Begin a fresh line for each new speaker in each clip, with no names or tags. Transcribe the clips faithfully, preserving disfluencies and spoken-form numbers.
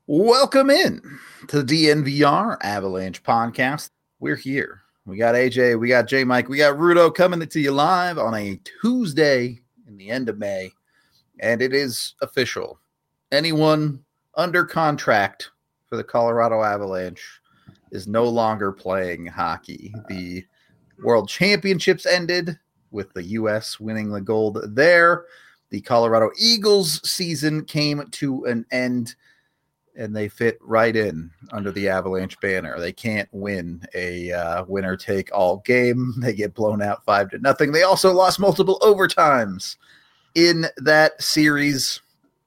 Welcome in to the D N V R Avalanche podcast. We're here. We got A J, we got J Mike, we got Rudo coming to you live on a Tuesday in the end of May. And it is official. Anyone under contract for the Colorado Avalanche is no longer playing hockey. The World Championships ended with the U S winning the gold there. The Colorado Eagles season came to an end, and they fit right in under the Avalanche banner. They can't win a uh, winner-take-all game. They get blown out five to nothing. They also lost multiple overtimes in that series.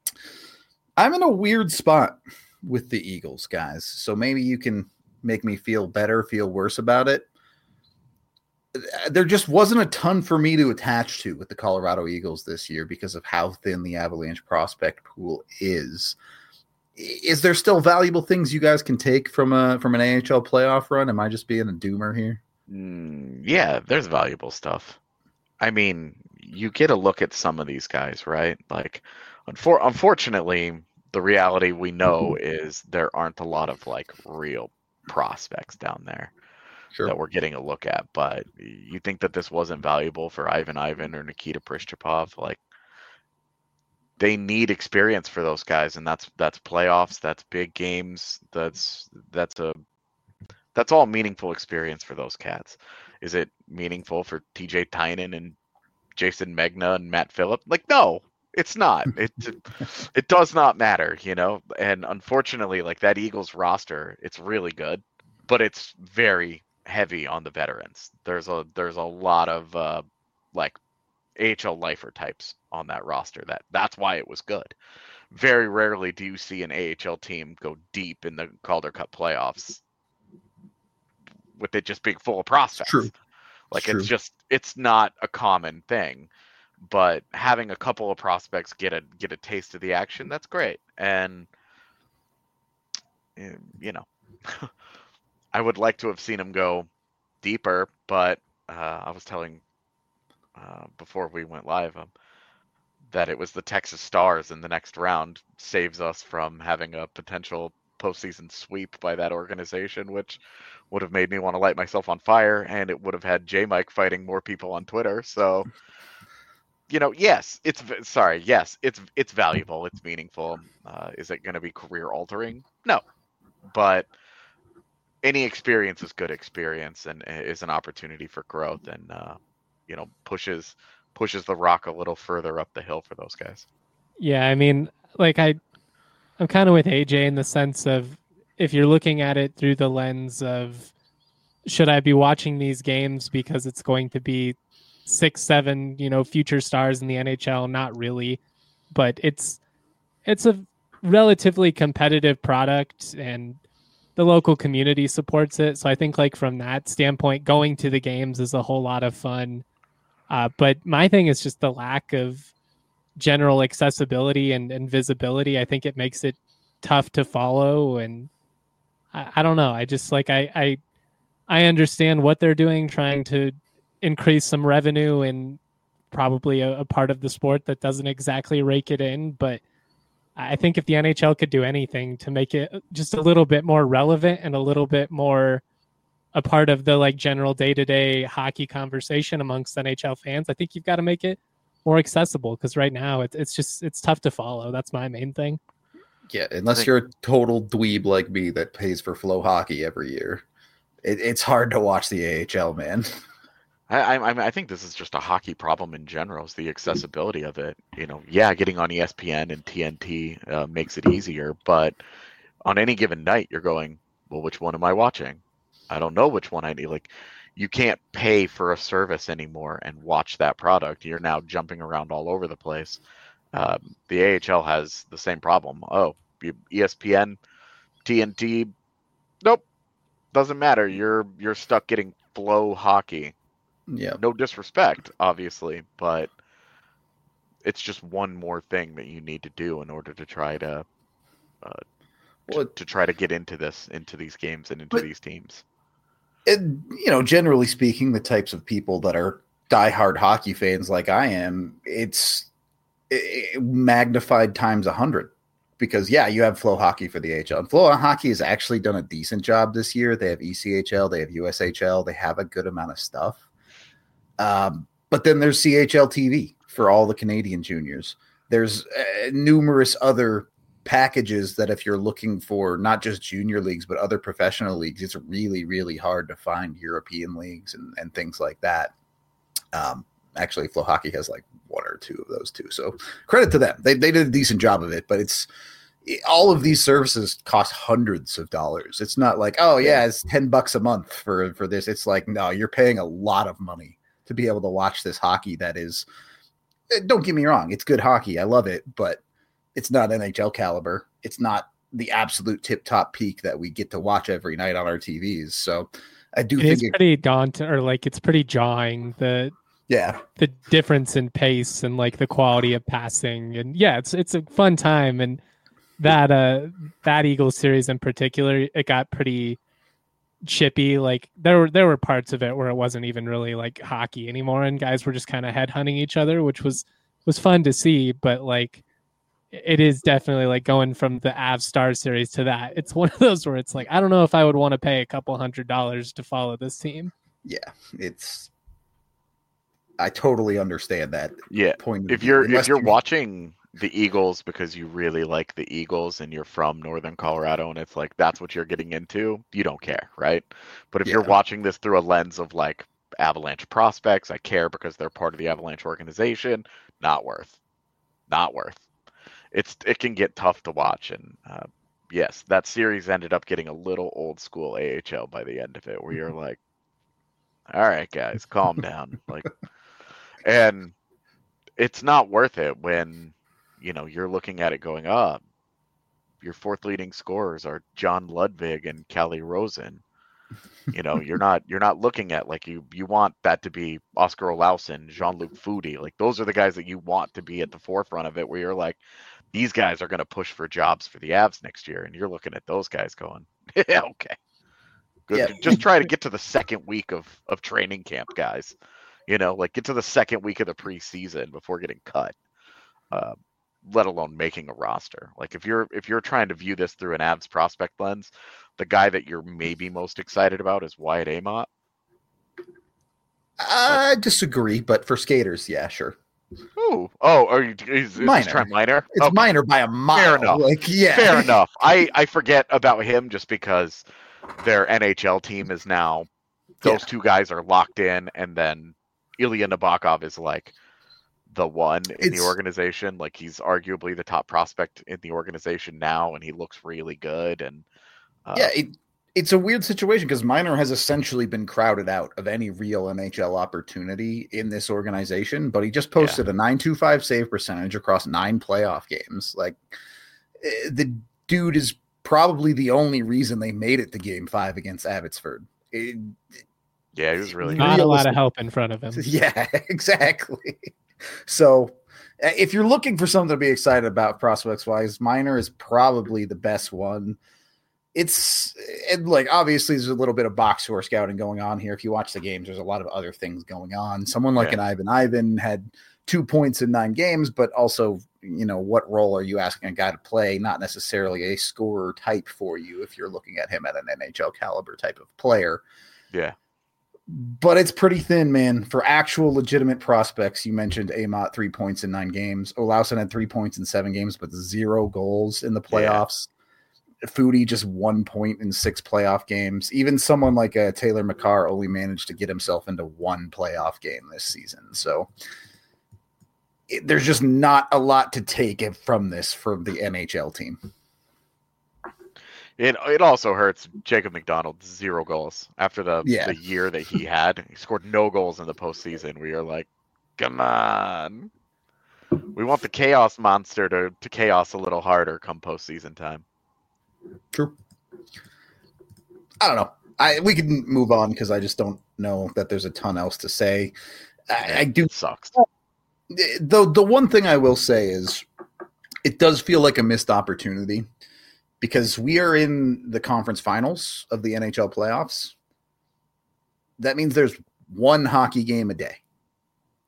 I'm in a weird spot with the Eagles, guys, so maybe you can make me feel better, feel worse about it. There just wasn't a ton for me to attach to with the Colorado Eagles this year because of how thin the Avalanche prospect pool is. Is there still valuable things you guys can take from a from an A H L playoff run? Am I just being a doomer here?
Mm, yeah, there's valuable stuff. I mean, you get a look at some of these guys, right? Like, unfor- unfortunately, the reality we know is there aren't a lot of like real prospects down there
Sure.
that we're getting a look at. But you think that this wasn't valuable for Ivan Ivan or Nikita Prischapov? Like, they need experience for those guys, and that's that's playoffs, that's big games, that's that's a that's all meaningful experience for those cats. Is it meaningful for T J Tynan and Jason Megna and Matt Phillip? Like, no, it's not. It it does not matter, you know. And unfortunately, like that Eagles roster, it's really good, but it's very heavy on the veterans. There's a there's a lot of uh, like A H L lifer types on that roster. That that's why it was good. Very rarely do you see an A H L team go deep in the Calder Cup playoffs with it just being full of prospects.
True.
Like
it's,
it's just it's not a common thing. But having a couple of prospects get a get a taste of the action, that's great. And you know, I would like to have seen him go deeper, but uh, I was telling uh, before we went live um, that it was the Texas Stars in the next round saves us from having a potential postseason sweep by that organization, which would have made me want to light myself on fire, and it would have had J Mike fighting more people on Twitter. So, you know, yes, it's sorry, yes, it's it's valuable, it's meaningful. Uh, is it going to be career altering? No, but any experience is good experience and is an opportunity for growth, and uh, you know, pushes pushes the rock a little further up the hill for those guys.
Yeah, I mean, like I, I'm kind of with A J in the sense of if you're looking at it through the lens of should I be watching these games because it's going to be six, seven, you know, future stars in the N H L? Not really, but it's it's a relatively competitive product and the local community supports it. So I think like from that standpoint, going to the games is a whole lot of fun. Uh, but my thing is just the lack of general accessibility and, and visibility. I think it makes it tough to follow. And I, I don't know. I just like, I, I, I understand what they're doing, trying to increase some revenue and probably a, a part of the sport that doesn't exactly rake it in. But I think if the N H L could do anything to make it just a little bit more relevant and a little bit more a part of the like general day-to-day hockey conversation amongst N H L fans, I think you've got to make it more accessible because right now it's it's just it's tough to follow. That's my main thing.
Yeah, unless you're a total dweeb like me that pays for Flow Hockey every year, it, it's hard to watch the A H L, man.
I, I I think this is just a hockey problem in general, is the accessibility of it. You know, yeah, getting on E S P N and T N T uh, makes it easier, but on any given night, you're going, well, which one am I watching? I don't know which one I need. Like, you can't pay for a service anymore and watch that product. You're now jumping around all over the place. Um, the A H L has the same problem. Oh, E S P N, T N T, nope, doesn't matter. You're you're stuck getting Flow Hockey.
Yeah.
No disrespect, obviously, but it's just one more thing that you need to do in order to try to, uh, to, to try to get into this, into these games and into
but,
these teams.
And, you know, generally speaking, the types of people that are diehard hockey fans like I am, it's it, magnified times a hundred because yeah, you have Flow Hockey for the A H L. And Flow Hockey has actually done a decent job this year. They have E C H L, they have U S H L, they have a good amount of stuff. Um, but then there's C H L T V for all the Canadian juniors. There's uh, numerous other packages that if you're looking for not just junior leagues, but other professional leagues, it's really, really hard to find European leagues and, and things like that. Um, actually, Flow Hockey has like one or two of those too. So credit to them. They, they did a decent job of it, but it's all of these services cost hundreds of dollars. It's not like, oh yeah, it's ten bucks a month for, for this. It's like, no, you're paying a lot of money to be able to watch this hockey. That is, don't get me wrong. It's good hockey. I love it, but it's not N H L caliber. It's not the absolute tip top peak that we get to watch every night on our T Vs. So I do
it
think
it's
it,
pretty daunting, or like it's pretty jarring, the
yeah,
the difference in pace and like the quality of passing. And yeah, it's it's a fun time. And that uh that Eagles series in particular, it got pretty chippy. Like there were there were parts of it where it wasn't even really like hockey anymore, and guys were just kind of headhunting each other, which was was fun to see. But like it is definitely like going from the Avs Star series to that. It's one of those where it's like, I don't know if I would want to pay a couple hundred dollars to follow this team.
Yeah, it's. I totally understand that.
Yeah,
point.
If you're if you're watching the Eagles because you really like the Eagles and you're from Northern Colorado and it's like that's what you're getting into, you don't care, right? But if
Yeah.
you're watching this through a lens of like Avalanche prospects, I care because they're part of the Avalanche organization, not worth. Not worth. It's it can get tough to watch, and uh, yes, that series ended up getting a little old school A H L by the end of it, where you're like, "All right, guys, calm down." Like, and it's not worth it when you know you're looking at it going up. Your fourth leading scorers are John Ludwig and Callie Rosen. You know, you're not you're not looking at like you you want that to be Oscar Olausson, Jean-Luc Foudy. Like those are the guys that you want to be at the forefront of it, where you're like, these guys are going to push for jobs for the Avs next year, and you're looking at those guys going, yeah, okay, good.
Yeah.
Just try to get to the second week of of training camp, guys. You know, like get to the second week of the preseason before getting cut. Uh, let alone making a roster. Like if you're if you're trying to view this through an Avs prospect lens, the guy that you're maybe most excited about is Wyatt Amott.
I disagree, but for skaters, yeah, sure.
Ooh, oh, are you is, is
Minor.
this Trent Minor?
It's
Okay.
minor by a mile.
Fair enough.
Like, yeah.
Fair enough. I, I forget about him just because their N H L team is now those
Yeah.
two guys are locked in, and then Ilya Nabokov is like the one in
It's-
the organization. Like he's arguably the top prospect in the organization now, and he looks really good. And uh,
Yeah, it, it's a weird situation because Minor has essentially been crowded out of any real N H L opportunity in this organization, but he just posted a nine twenty-five save percentage across nine playoff games. Like, eh, the dude is probably the only reason they made it to game five against Abbotsford. It,
yeah, he was really good.
Not a lot
Realistic-
of help in front of him.
Yeah, exactly. So uh, if you're looking for something to be excited about prospects wise, Minor is probably the best one. It's and like obviously there's a little bit of box score scouting going on here. If you watch the games, there's a lot of other things going on. Someone like
Yeah.
an Ivan Ivan had two points in nine games, but also, you know, what role are you asking a guy to play? Not necessarily a scorer type for you if you're looking at him at an N H L caliber type of player.
Yeah.
But it's pretty thin, man. For actual legitimate prospects, you mentioned Amott, three points in nine games. Olausson had three points in seven games, but zero goals in the playoffs. Foudy just one point in six playoff games. Even someone like uh, Taylor McCarr only managed to get himself into one playoff game this season. So it, there's just not a lot to take it from this from the N H L team.
It it also hurts Jacob McDonald, zero goals after the,
Yeah.
the year that he had. He scored no goals in the postseason. We are like, come on. We want the chaos monster to, to chaos a little harder come postseason time.
True. I don't know. I we can move on because I just don't know that there's a ton else to say. I, I do
It sucks.
the the one thing I will say is it does feel like a missed opportunity because we are in the conference finals of the N H L playoffs. That means there's one hockey game a day.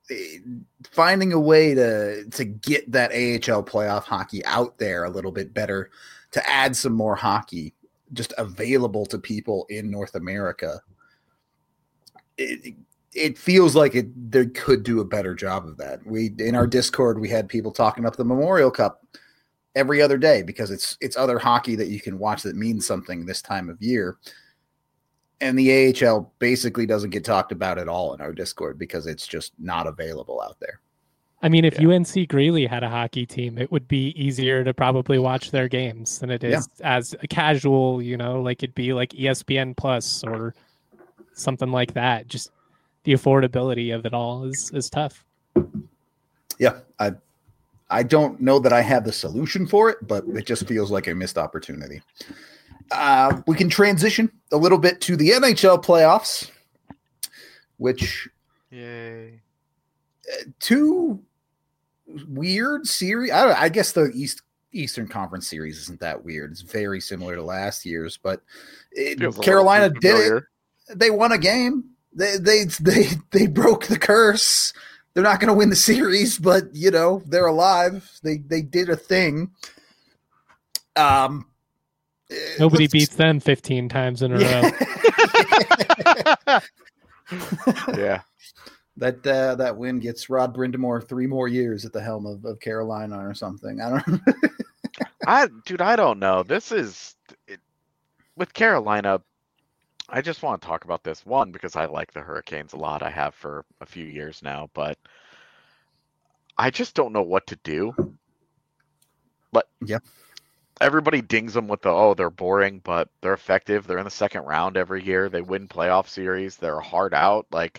finding a way to to get that A H L playoff hockey out there a little bit better, to add some more hockey just available to people in North America. It, it feels like it they could do a better job of that. We in our Discord we had people talking up the Memorial Cup every other day because it's it's other hockey that you can watch that means something this time of year. And the A H L basically doesn't get talked about at all in our Discord because it's just not available out there.
I mean, if
Yeah.
U N C Greeley had a hockey team, it would be easier to probably watch their games than it is yeah. as a casual, you know, like it'd be like E S P N Plus or something like that. Just the affordability of it all is is tough.
Yeah, I I don't know that I have the solution for it, but it just feels like a missed opportunity. Uh, we can transition a little bit to the N H L playoffs, which
Yay.
Uh, two weird series. I, don't, I guess the East Eastern Conference series isn't that weird. It's very similar to last year's, but it, Carolina did it. They won a game. They they they they broke the curse. They're not going to win the series, but you know they're alive. They they did a thing. Um,
nobody beats them fifteen times in a
yeah.
row.
Yeah,
that uh, that win gets Rod Brindamore three more years at the helm of, of Carolina or something. I don't.
I dude, I don't know. This is it, with Carolina. I just want to talk about this one because I like the Hurricanes a lot. I have for a few years now, but I just don't know what to do. But
yeah,
everybody dings them with the oh they're boring, but they're effective. They're in the second round every year. They win playoff series. They're a hard out. Like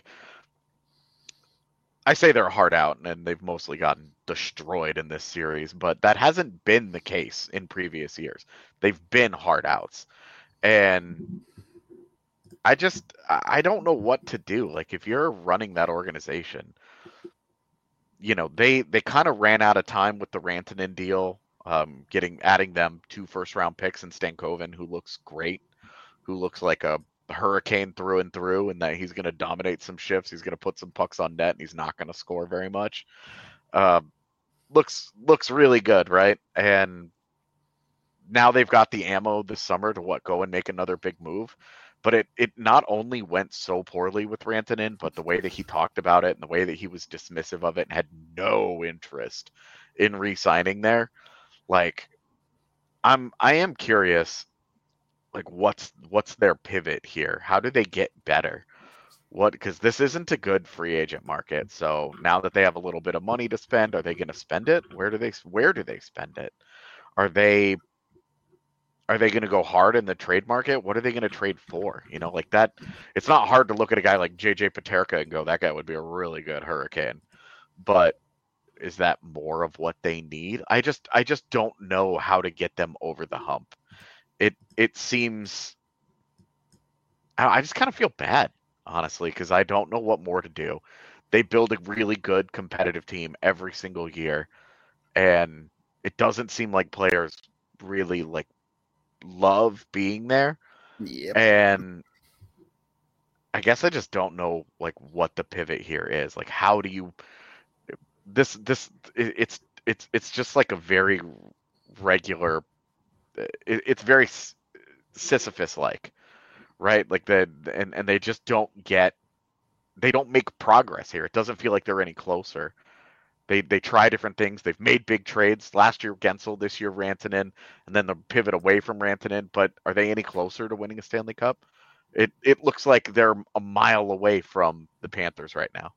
I say, they're a hard out, and they've mostly gotten destroyed in this series. But that hasn't been the case in previous years. They've been hard outs, and I just, I don't know what to do. Like, if you're running that organization, you know, they, they kind of ran out of time with the Rantanen deal, um, getting, adding them two first round picks and Stankoven, who looks great, who looks like a Hurricane through and through, and that he's going to dominate some shifts. He's going to put some pucks on net, and he's not going to score very much. Um, looks, looks really good. Right. And now they've got the ammo this summer to what, go and make another big move. But it, it not only went so poorly with Rantanen, but the way that he talked about it and the way that he was dismissive of it and had no interest in re-signing there. Like, I'm I am curious, like what's what's their pivot here? How do they get better? What because this isn't a good free agent market. So now that they have a little bit of money to spend, are they going to spend it? Where do they where do they spend it? Are they Are they going to go hard in the trade market? What are they going to trade for? You know, like that. It's not hard to look at a guy like J J Paterka and go, that guy would be a really good Hurricane. But is that more of what they need? I just, I just don't know how to get them over the hump. It, it seems. I just kind of feel bad, honestly, because I don't know what more to do. They build a really good competitive team every single year, and it doesn't seem like players really like. Love being there.
Yep.
And I guess I just don't know like what the pivot here is. Like, how do you this this it, it's it's it's just like a very regular it, it's very Sisyphus like, right? Like the and and they just don't get they don't make progress here. It doesn't feel like they're any closer. They they try different things. They've made big trades. Last year, Gensel. This year, Rantanen. And then the pivot away from Rantanen. But are they any closer to winning a Stanley Cup? It it looks like they're a mile away from the Panthers right now.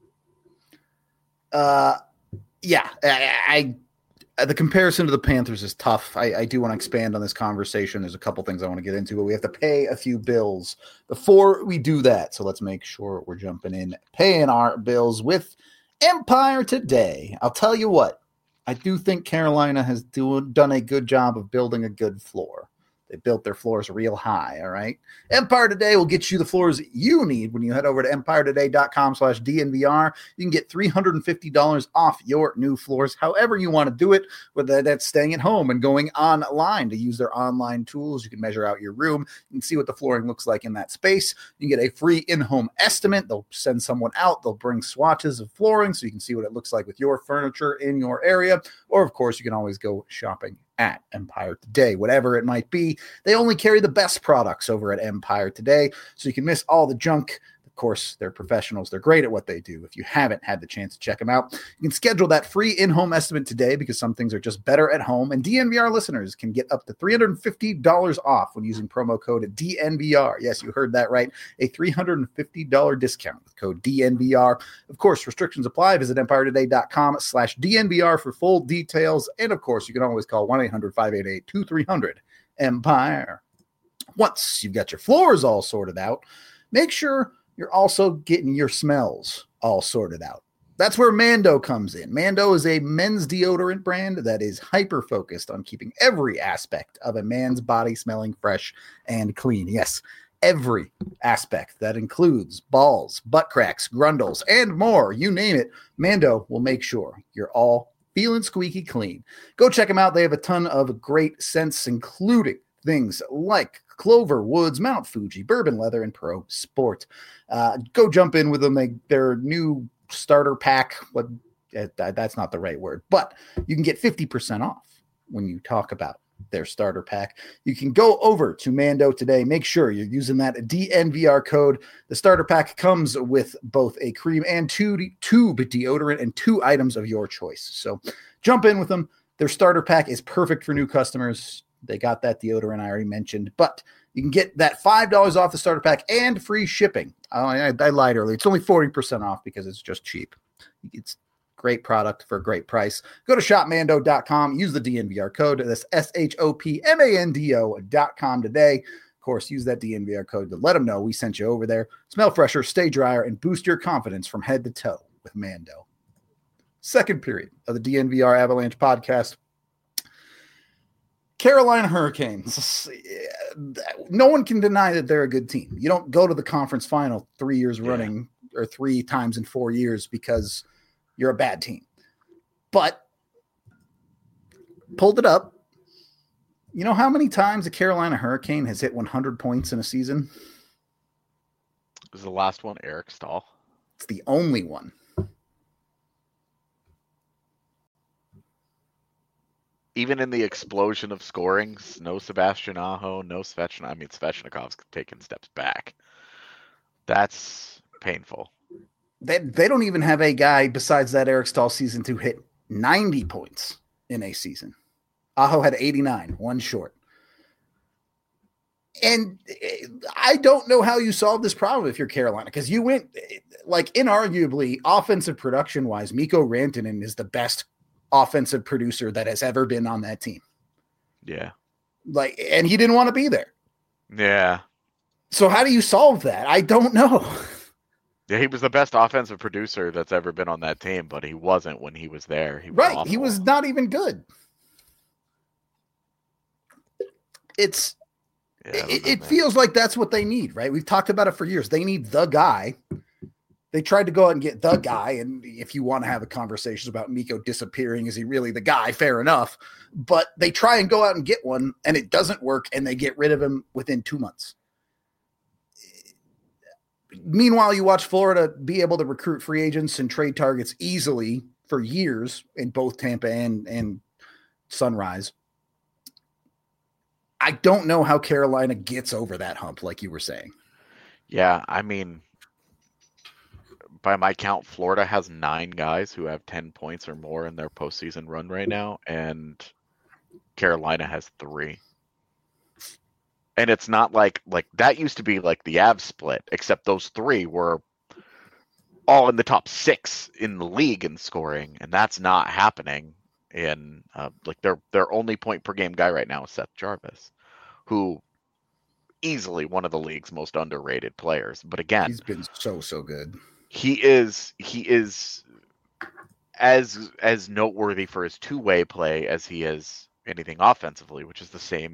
Uh, yeah. I, I the comparison to the Panthers is tough. I, I do want to expand on this conversation. There's a couple things I want to get into, but we have to pay a few bills before we do that. So let's make sure we're jumping in, paying our bills with Empire today. I'll tell you what, I do think Carolina has do, done a good job of building a good floor. They built their floors real high, all right? Empire Today will get you the floors you need when you head over to empire today dot com slash D N V R. You can get three hundred fifty dollars off your new floors, however you want to do it, whether that's staying at home and going online to use their online tools. You can measure out your room. You can see what the flooring looks like in that space. You can get a free in-home estimate. They'll send someone out. They'll bring swatches of flooring so you can see what it looks like with your furniture in your area. Or, of course, you can always go shopping at Empire Today, whatever it might be. They only carry the best products over at Empire Today, so you can miss all the junk. Of course, they're professionals. They're great at what they do. If you haven't had the chance to check them out, you can schedule that free in-home estimate today because some things are just better at home. And D N V R listeners can get up to three hundred fifty dollars off when using promo code D N V R. Yes, you heard that right. A three hundred fifty dollars discount with code D N V R. Of course, restrictions apply. Visit empire today dot com slash D N V R for full details. And, of course, you can always call one eight hundred five eight eight two three zero zero Empire. Once you've got your floors all sorted out, make sure you're also getting your smells all sorted out. That's where Mando comes in. Mando is a men's deodorant brand that is hyper-focused on keeping every aspect of a man's body smelling fresh and clean. Yes, every aspect. That includes balls, butt cracks, grundles, and more. You name it, Mando will make sure you're all feeling squeaky clean. Go check them out. They have a ton of great scents, including things like Clover, Woods, Mount Fuji, Bourbon Leather, and Pro Sport. Uh, go jump in with them. They, their new starter pack. What uh, that's not the right word, but you can get fifty percent off when you talk about their starter pack. You can go over to Mando today. Make sure you're using that D N V R code. The starter pack comes with both a cream and two tube deodorant and two items of your choice. So jump in with them. Their starter pack is perfect for new customers. They got that deodorant I already mentioned, but you can get that five dollars off the starter pack and free shipping. Oh, I, I lied earlier. It's only forty percent off because it's just cheap. It's great product for a great price. Go to shop mando dot com. Use the D N V R code. That's S H O P M A N D O dot com today. Of course, use that D N V R code to let them know we sent you over there. Smell fresher, stay drier, and boost your confidence from head to toe with Mando. Second period of the D N V R Avalanche podcast. Carolina Hurricanes. No one can deny that they're a good team. You don't go to the conference final three years yeah. running or three times in four years because you're a bad team. But pulled it up. You know how many times a Carolina Hurricane has hit one hundred points in a season?
Was the last one Eric Stahl?
It's the only one.
Even in the explosion of scoring, no Sebastian Aho, no Svechnikov. I mean, Svechnikov's taking steps back. That's painful.
They, they don't even have a guy besides that Eric Stahl season to hit ninety points in a season. Aho had eighty-nine, one short. And I don't know how you solve this problem if you're Carolina, because you went, like, inarguably, offensive production-wise, Mikko Rantanen is the best offensive producer that has ever been on that team.
Yeah.
Like, and he didn't want to be there.
Yeah.
So how do you solve that? I don't know.
Yeah, he was the best offensive producer that's ever been on that team, but he wasn't when he was there. He was
right.
awful.
He was not even good. It's, yeah, it, it feels like that's what they need, right? We've talked about it for years. They need the guy. They tried to go out and get the guy, and if you want to have a conversation about Mikko disappearing, is he really the guy? Fair enough. But they try and go out and get one, and it doesn't work, and they get rid of him within two months. Meanwhile, you watch Florida be able to recruit free agents and trade targets easily for years in both Tampa and, and Sunrise. I don't know how Carolina gets over that hump, like you were saying.
Yeah, I mean, by my count, Florida has nine guys who have ten points or more in their postseason run right now, and Carolina has three. And it's not like like that used to be like the Avs split, except those three were all in the top six in the league in scoring, and that's not happening. In uh, like their their only point per game guy right now is Seth Jarvis, who easily one of the league's most underrated players. But again,
he's been so so good.
He is he is as as noteworthy for his two-way play as he is anything offensively, which is the same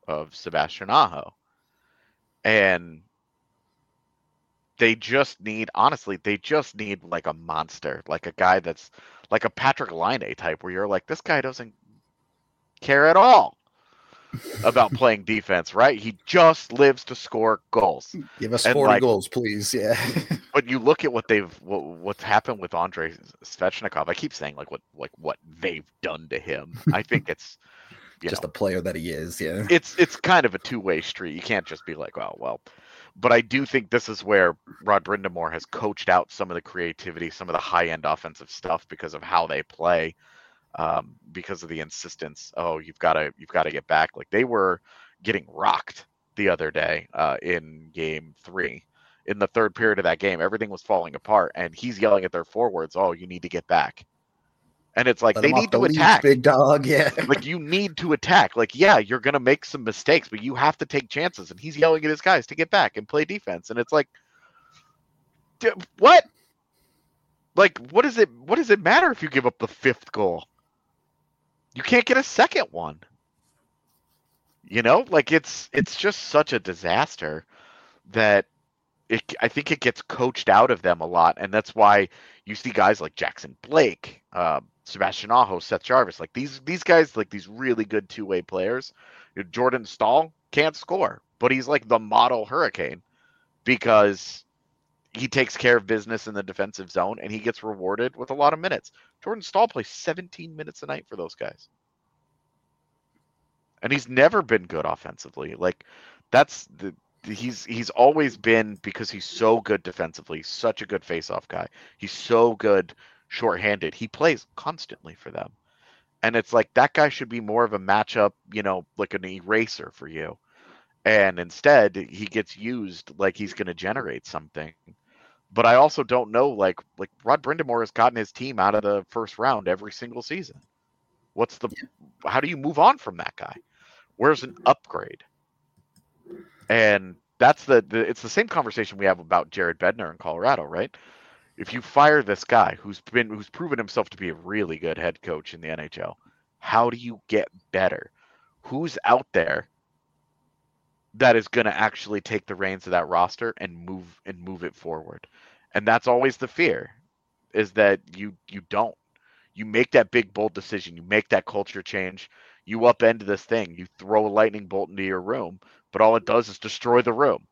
of Sebastian Aho. And they just need, honestly, they just need like a monster, like a guy that's like a Patrick Laine type, where you're like, this guy doesn't care at all about playing defense, right? He just lives to score goals.
Give us
And,
forty
like,
goals, please. Yeah.
But you look at what they've what, what's happened with Andrei Svechnikov. I keep saying like what like what they've done to him. I think it's you
just
know,
the player that he is. Yeah.
it's it's kind of a two-way street. You can't just be like, oh well. But I do think this is where Rod Brind'Amour has coached out some of the creativity, some of the high-end offensive stuff because of how they play, um, because of the insistence. Oh, you've got to you've got to get back. Like they were getting rocked the other day uh, in Game Three. In the third period of that game, everything was falling apart, and he's yelling at their forwards, "Oh, you need to get back." And it's like,
Let
they
him off
need
the
to
leash,
attack.
big dog. Yeah.
Like, you need to attack. Like, yeah, you're going to make some mistakes, but you have to take chances. And he's yelling at his guys to get back and play defense. And it's like, d- what? Like, what does it what does it matter if you give up the fifth goal? You can't get a second one. You know, like it's it's just such a disaster that it, I think it gets coached out of them a lot, and that's why you see guys like Jackson Blake, uh, Sebastian Aho, Seth Jarvis, like these these guys, like these really good two-way players. Jordan Staal can't score, but he's like the model Hurricane because he takes care of business in the defensive zone and he gets rewarded with a lot of minutes. Jordan Staal plays seventeen minutes a night for those guys. And he's never been good offensively. Like that's the he's he's always been, because he's so good defensively, such a good face-off guy. He's so good shorthanded. He plays constantly for them. And it's like that guy should be more of a matchup, you know, like an eraser for you. And instead, he gets used like he's going to generate something. But I also don't know, like like Rod Brind'Amour has gotten his team out of the first round every single season. What's the how do you move on from that guy? Where's an upgrade? And that's the, the it's the same conversation we have about Jared Bednar in Colorado, right? If you fire this guy who's been who's proven himself to be a really good head coach in the N H L, how do you get better? Who's out there that is going to actually take the reins of that roster and move and move it forward? And that's always the fear, is that you you don't. You make that big bold decision, you make that culture change, you upend this thing, you throw a lightning bolt into your room, but all it does is destroy the room.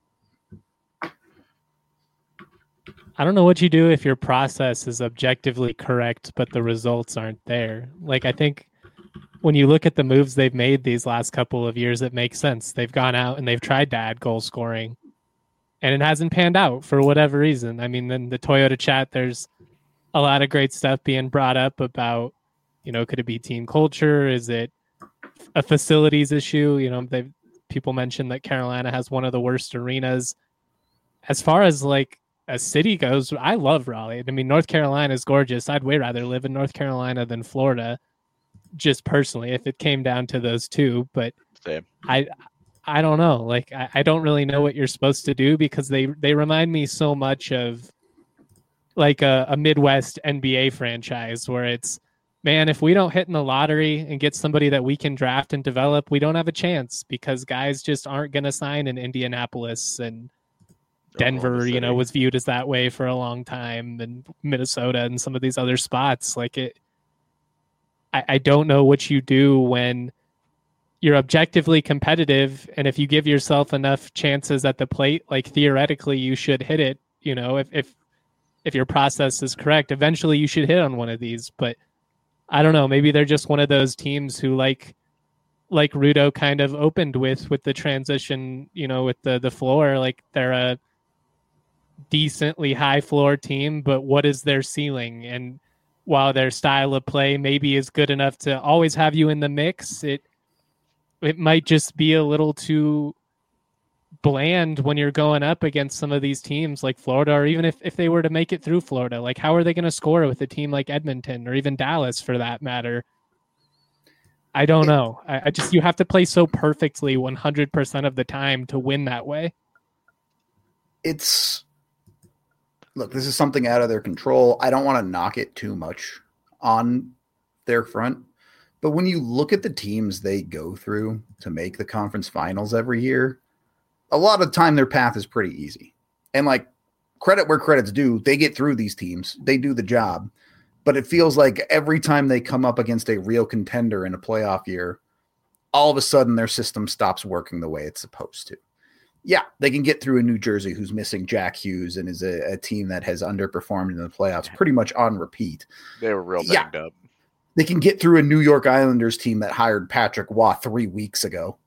I don't know what you do if your process is objectively correct, but the results aren't there. Like, I think when you look at the moves they've made these last couple of years, it makes sense. They've gone out and they've tried to add goal scoring, and it hasn't panned out for whatever reason. I mean, in the Toyota chat, there's a lot of great stuff being brought up about, you know, could it be team culture? Is it a facilities issue? You know, they people mentioned that Carolina has one of the worst arenas. As far as like a city goes, I love Raleigh. I mean, North Carolina is gorgeous. I'd way rather live in North Carolina than Florida, just personally, if it came down to those two. But
Same.
I, I don't know. Like, I, I don't really know what you're supposed to do, because they, they remind me so much of like a, a Midwest N B A franchise where it's, man, if we don't hit in the lottery and get somebody that we can draft and develop, we don't have a chance, because guys just aren't going to sign in Indianapolis, and Denver, you know, was viewed as that way for a long time, and Minnesota and some of these other spots. Like it, I, I don't know what you do when you're objectively competitive, and if you give yourself enough chances at the plate, like theoretically you should hit it. You know, if if if your process is correct, eventually you should hit on one of these. But I don't know, maybe they're just one of those teams who, like like Rudo kind of opened with with the transition, you know, with the the floor, like they're a decently high floor team, but what is their ceiling? And while their style of play maybe is good enough to always have you in the mix, it it might just be a little too bland when you're going up against some of these teams like Florida, or even if, if they were to make it through Florida, like how are they going to score with a team like Edmonton, or even Dallas for that matter? I don't know. I, I just, you have to play so perfectly one hundred percent of the time to win that way.
It's, look, this is something out of their control. I don't want to knock it too much on their front, But when you look at the teams they go through to make the conference finals every year, a lot of the time their path is pretty easy. And like credit where credit's due, they get through these teams. They do the job. But it feels like every time they come up against a real contender in a playoff year, all of a sudden their system stops working the way it's supposed to. Yeah, they can get through a New Jersey who's missing Jack Hughes and is a, a team that has underperformed in the playoffs pretty much on repeat.
They were real banged yeah. up.
They can get through a New York Islanders team that hired Patrick Waugh three weeks ago.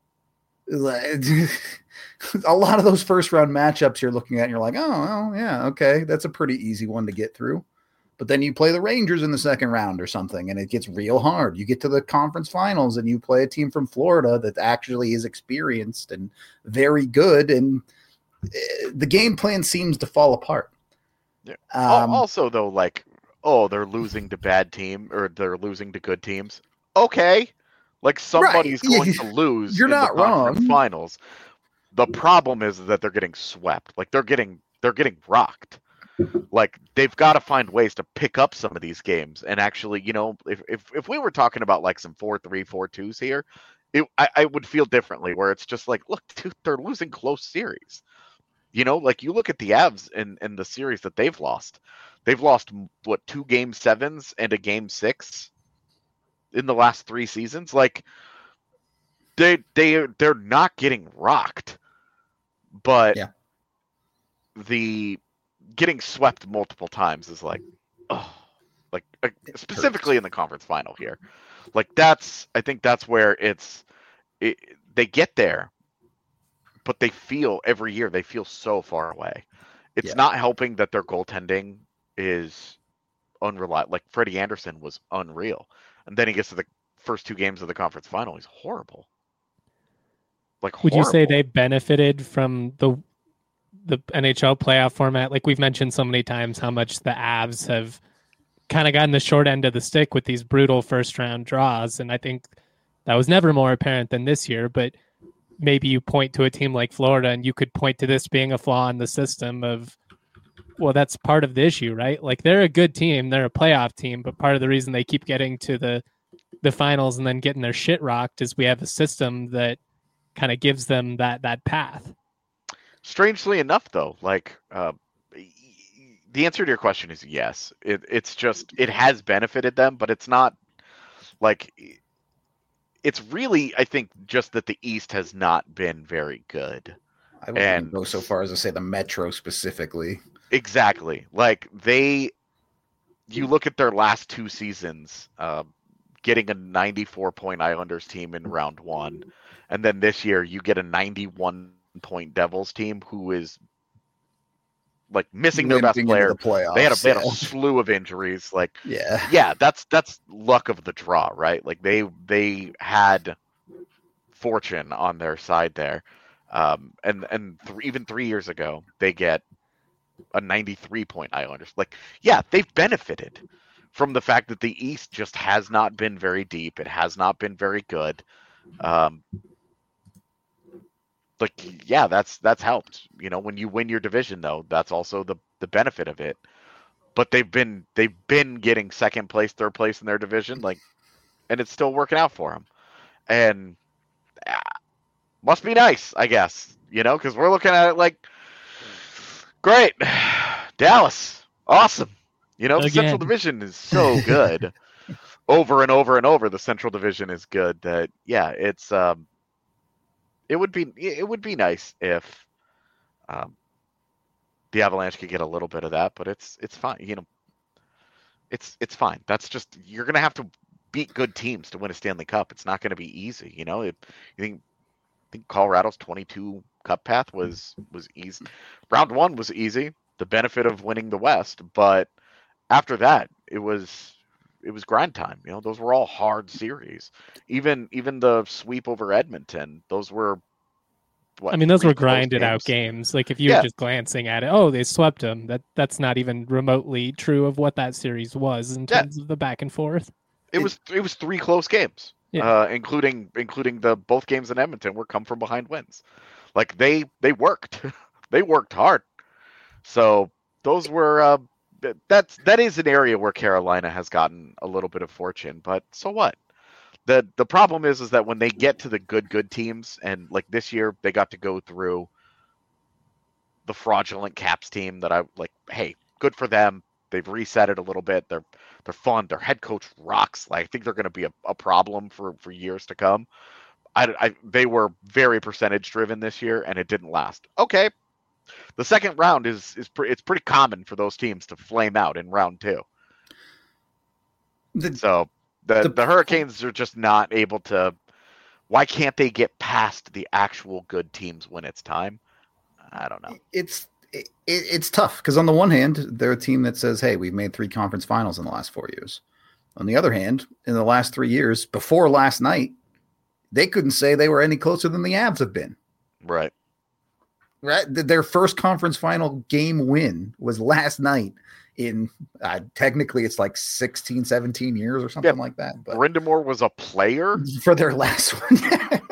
A lot of those first round matchups you're looking at and you're like, oh, well, yeah, okay, that's a pretty easy one to get through. But then you play the Rangers in the second round or something, and it gets real hard. You get to the conference finals, and you play a team from Florida that actually is experienced and very good, and the game plan seems to fall apart.
Yeah. Um, also, though, like, oh, they're losing to bad team or they're losing to good teams. Okay, like somebody's right. going to lose.
You're
in
not
the conference
wrong.
Finals. The problem is that they're getting swept. Like they're getting they're getting rocked. Like they've got to find ways to pick up some of these games and actually, you know, if if, if we were talking about like some four three, four twos here, it, I, I would feel differently. Where it's just like, look, dude, they're losing close series. You know, like you look at the Avs and and the series that they've lost. They've lost what two game sevens and a game six in the last three seasons. Like they they they're not getting rocked, but
yeah.
the getting swept multiple times is like, oh, like uh, specifically in the conference final here. Like that's, I think that's where it's, it, they get there, but they feel every year, they feel so far away. It's yeah. not helping that their goaltending is unreliable. Like Freddie Anderson was unreal. And then he gets to the first two games of the conference final. He's horrible. Like, horrible.
Would you say they benefited from the the N H L playoff format? Like we've mentioned so many times how much the Avs have kind of gotten the short end of the stick with these brutal first round draws. And I think that was never more apparent than this year, but maybe you point to a team like Florida and you could point to this being a flaw in the system of, well, that's part of the issue, right? Like they're a good team, they're a playoff team, but part of the reason they keep getting to the, the finals and then getting their shit rocked is we have a system that kind of gives them that, that path.
Strangely enough, though, like uh, the answer to your question is yes. It, it's just it has benefited them, but it's not like it's really. I think just that the East has not been very good.
I wouldn't go so far as to say the Metro specifically.
Exactly, like they. You look at their last two seasons, uh, getting a ninety-four point Islanders team in round one, and then this year you get a ninety-one point Devils team who is like missing their best player.
The playoffs,
they had a they had a
yeah.
slew of injuries. Like
yeah,
yeah, that's that's luck of the draw, right? Like they they had fortune on their side there, um, and and th- even three years ago they get a ninety-three point Islanders. Like yeah, they've benefited from the fact that the East just has not been very deep. It has not been very good. Um, Like yeah, that's that's helped. You know, when you win your division, though, that's also the the benefit of it. But they've been they've been getting second place, third place in their division, like, and it's still working out for them. And uh, must be nice, I guess. You know, because we're looking at it like, great, Dallas, awesome. You know, the
Again.
Central Division is so good. Over and over and over, the Central Division is good. That yeah, it's. Um, It would be it would be nice if um, the Avalanche could get a little bit of that, but it's it's fine. You know, it's it's fine. That's just you're gonna have to beat good teams to win a Stanley Cup. It's not gonna be easy. You know, if you think I think Colorado's twenty-two Cup path was was easy. Round one was easy. The benefit of winning the West, but after that, it was. It was grind time. You know, those were all hard series. Even even the sweep over Edmonton, those were. What,
I mean, those were grinded
games.
out games. Like if you
yeah.
were just glancing at it, oh, they swept them. That that's not even remotely true of what that series was in terms yeah. of the back and forth.
It, it was it was three close games, yeah. uh, including including the both games in Edmonton were come from behind wins. Like they they worked, they worked hard. So those were. Uh, That's that is an area where Carolina has gotten a little bit of fortune, but so what? the the problem is is that when they get to the good good teams, and like this year they got to go through the fraudulent Caps team that I like. Hey, good for them. They've reset it a little bit. They're they're fun. Their head coach rocks. Like, I think they're going to be a, a problem for, for years to come. I, I they were very percentage driven this year, and it didn't last. Okay, the second round is is pre- it's pretty common for those teams to flame out in round two. The, so the, the the Hurricanes are just not able to. Why can't they get past the actual good teams when it's time? I don't know.
It's it, it's tough because on the one hand, they're a team that says, "Hey, we've made three conference finals in the last four years." On the other hand, in the last three years, before last night, they couldn't say they were any closer than the Avs have been.
Right.
Right. Their first conference final game win was last night in uh, technically it's like sixteen, seventeen years or something yeah. like that.
But Brind'Amour was a player
for their last one.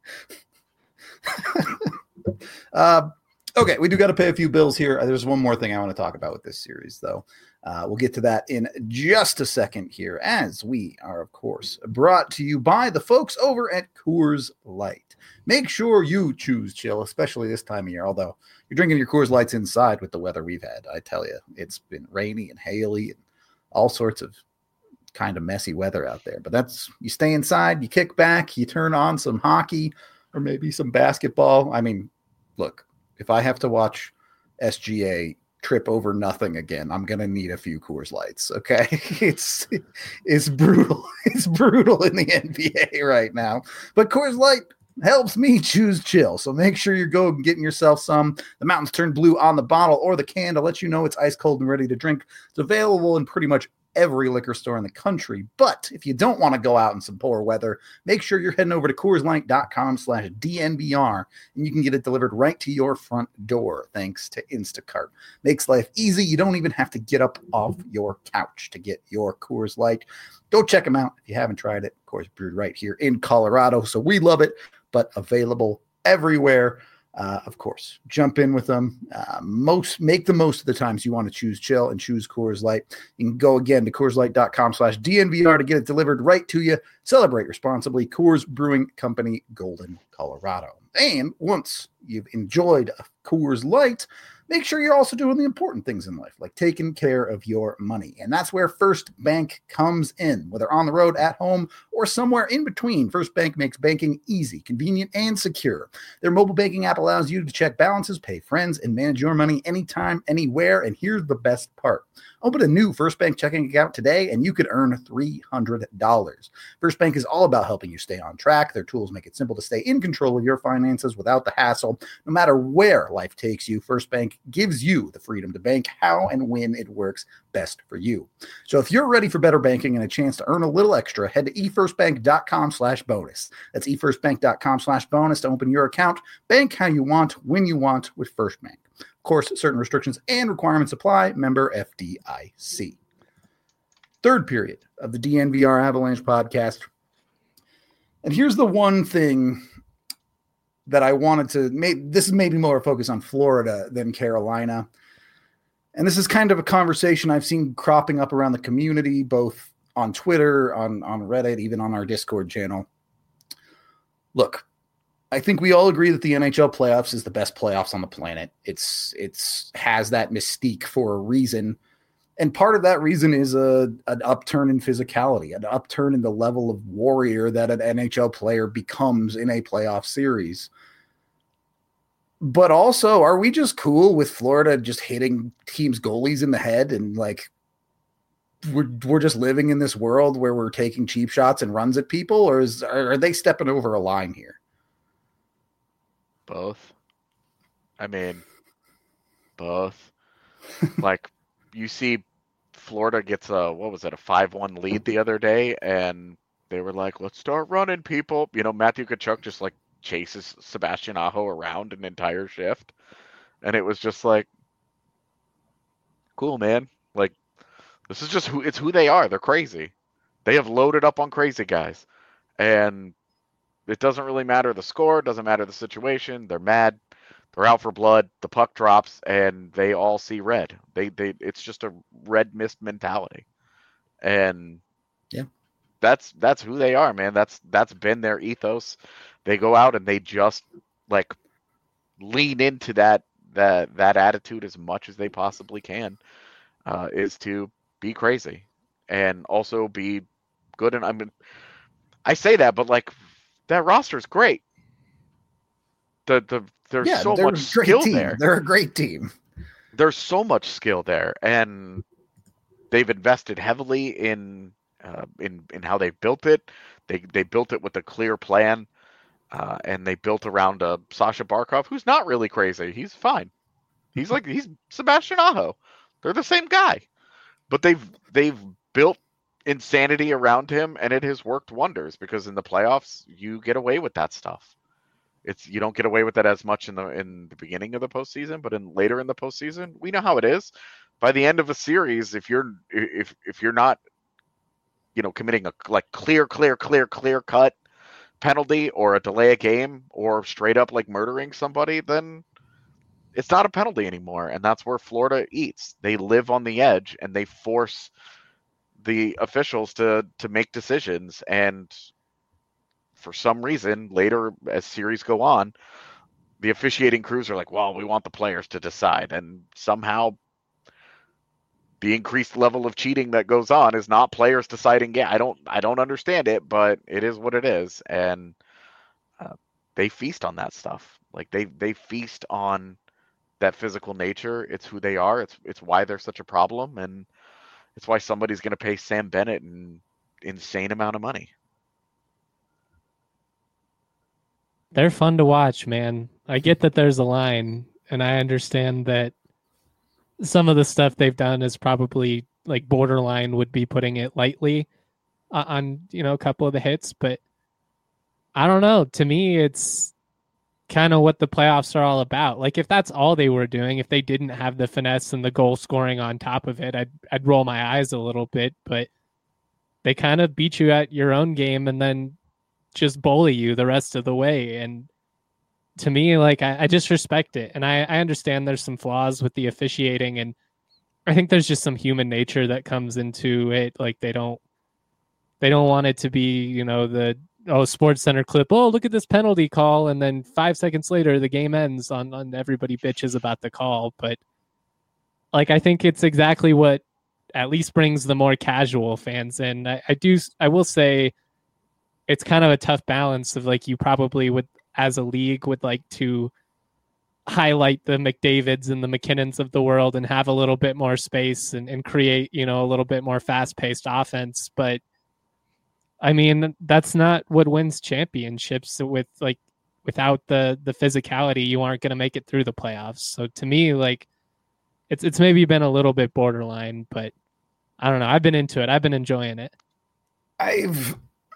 uh, okay. We do got to pay a few bills here. There's one more thing I want to talk about with this series though. Uh, we'll get to that in just a second here, as we are, of course, brought to you by the folks over at Coors Light. Make sure you choose chill, especially this time of year, although you're drinking your Coors Lights inside with the weather we've had. I tell you, it's been rainy and haily and all sorts of kind of messy weather out there. But that's, you stay inside, you kick back, you turn on some hockey or maybe some basketball. I mean, look, if I have to watch S G A trip over nothing again, I'm gonna need a few Coors Lights. Okay, it's it's brutal. It's brutal in the N B A right now. But Coors Light helps me choose chill. So make sure you're going getting yourself some. The mountains turn blue on the bottle or the can to let you know it's ice cold and ready to drink. It's available in pretty much every liquor store in the country. But if you don't want to go out in some poor weather, make sure you're heading over to CoorsLight.com slash DNVR and you can get it delivered right to your front door thanks to Instacart. Makes life easy. You don't even have to get up off your couch to get your Coors Light. Go check them out if you haven't tried it. Of course, brewed right here in Colorado, so we love it, but available everywhere. Uh, of course, jump in with them. Uh, most make the most of the times you want to choose chill and choose Coors Light. You can go again to CoorsLight.com slash DNVR to get it delivered right to you. Celebrate responsibly. Coors Brewing Company, Golden, Colorado. And once you've enjoyed a Coors Light, make sure you're also doing the important things in life, like taking care of your money. And that's where First Bank comes in. Whether on the road, at home, or somewhere in between, First Bank makes banking easy, convenient, and secure. Their mobile banking app allows you to check balances, pay friends, and manage your money anytime, anywhere. And here's the best part. Open a new First Bank checking account today, and you could earn three hundred dollars. First Bank is all about helping you stay on track. Their tools make it simple to stay in control of your finances without the hassle. No matter where life takes you, First Bank gives you the freedom to bank how and when it works best for you. So if you're ready for better banking and a chance to earn a little extra, head to efirstbank.com slash bonus. That's efirstbank.com slash bonus to open your account. Bank how you want, when you want with First Bank. Of course, certain restrictions and requirements apply. Member F D I C. Third period of the D N V R Avalanche podcast. And here's the one thing that I wanted to make. This is maybe more a focus on Florida than Carolina. And this is kind of a conversation I've seen cropping up around the community, both on Twitter, on, on Reddit, even on our Discord channel. Look, I think we all agree that the N H L playoffs is the best playoffs on the planet. It's it's has that mystique for a reason. And part of that reason is a an upturn in physicality, an upturn in the level of warrior that an N H L player becomes in a playoff series. But also, are we just cool with Florida just hitting teams' goalies in the head and like we're we're just living in this world where we're taking cheap shots and runs at people, or is are they stepping over a line here?
Both. I mean, both. Like, you see Florida gets a, what was it, a five one lead the other day, and they were like, let's start running, people. You know, Matthew Tkachuk just, like, chases Sebastian Aho around an entire shift. And it was just like, cool, man. Like, this is just who, it's who they are. They're crazy. They have loaded up on crazy guys. And it doesn't really matter the score, doesn't matter the situation. They're mad. They're out for blood. The puck drops, and they all see red. They they it's just a red mist mentality. And
yeah,
that's that's who they are, man. That's that's been their ethos. They go out and they just like lean into that that that attitude as much as they possibly can. Uh, is to be crazy and also be good. And I mean, I say that, but like that roster's great. The the there's
Yeah,
so
they're
much
a great
skill
team.
there.
They're a great team.
There's so much skill there, and they've invested heavily in uh, in in how they built it. They they built it with a clear plan, uh, and they built around uh, Sasha Barkov, who's not really crazy. He's fine. He's like he's Sebastian Aho. They're the same guy, but they've they've built insanity around him, and it has worked wonders because in the playoffs you get away with that stuff. It's you don't get away with that as much in the in the beginning of the postseason, but in later in the postseason, we know how it is. By the end of a series, if you're if if you're not, you know, committing a like clear, clear, clear, clear cut penalty or a delay a game or straight up like murdering somebody, then it's not a penalty anymore. And that's where Florida eats. They live on the edge and they force the officials to to make decisions. And for some reason, later as series go on, the officiating crews are like, well, we want the players to decide. And somehow the increased level of cheating that goes on is not players deciding. Yeah, I don't, I don't understand it, but it is what it is. And uh, they feast on that stuff. Like they, they feast on that physical nature. It's who they are. It's, it's why they're such a problem. And it's why somebody's going to pay Sam Bennett an insane amount of money.
They're fun to watch, man. I get that there's a line, and I understand that some of the stuff they've done is probably like borderline would be putting it lightly uh, on, you know, a couple of the hits, but I don't know. To me, it's kind of what the playoffs are all about. Like if that's all they were doing, if they didn't have the finesse and the goal scoring on top of it, I'd, I'd roll my eyes a little bit, but they kind of beat you at your own game and then just bully you the rest of the way. And to me, like I, I just respect it. And I, I understand there's some flaws with the officiating, and I think there's just some human nature that comes into it. Like they don't they don't want it to be, you know, the oh Sports Center clip, oh look at this penalty call, and then five seconds later the game ends on, on everybody bitches about the call. But like I think it's exactly what at least brings the more casual fans in. I, I do I will say it's kind of a tough balance of like you probably would as a league would like to highlight the McDavids and the McKinnons of the world and have a little bit more space and, and create, you know, a little bit more fast-paced offense. But I mean, that's not what wins championships. With like without the the physicality, you aren't going to make it through the playoffs. So to me, like it's it's maybe been a little bit borderline, but I don't know. I've been into it. I've been enjoying it.
I've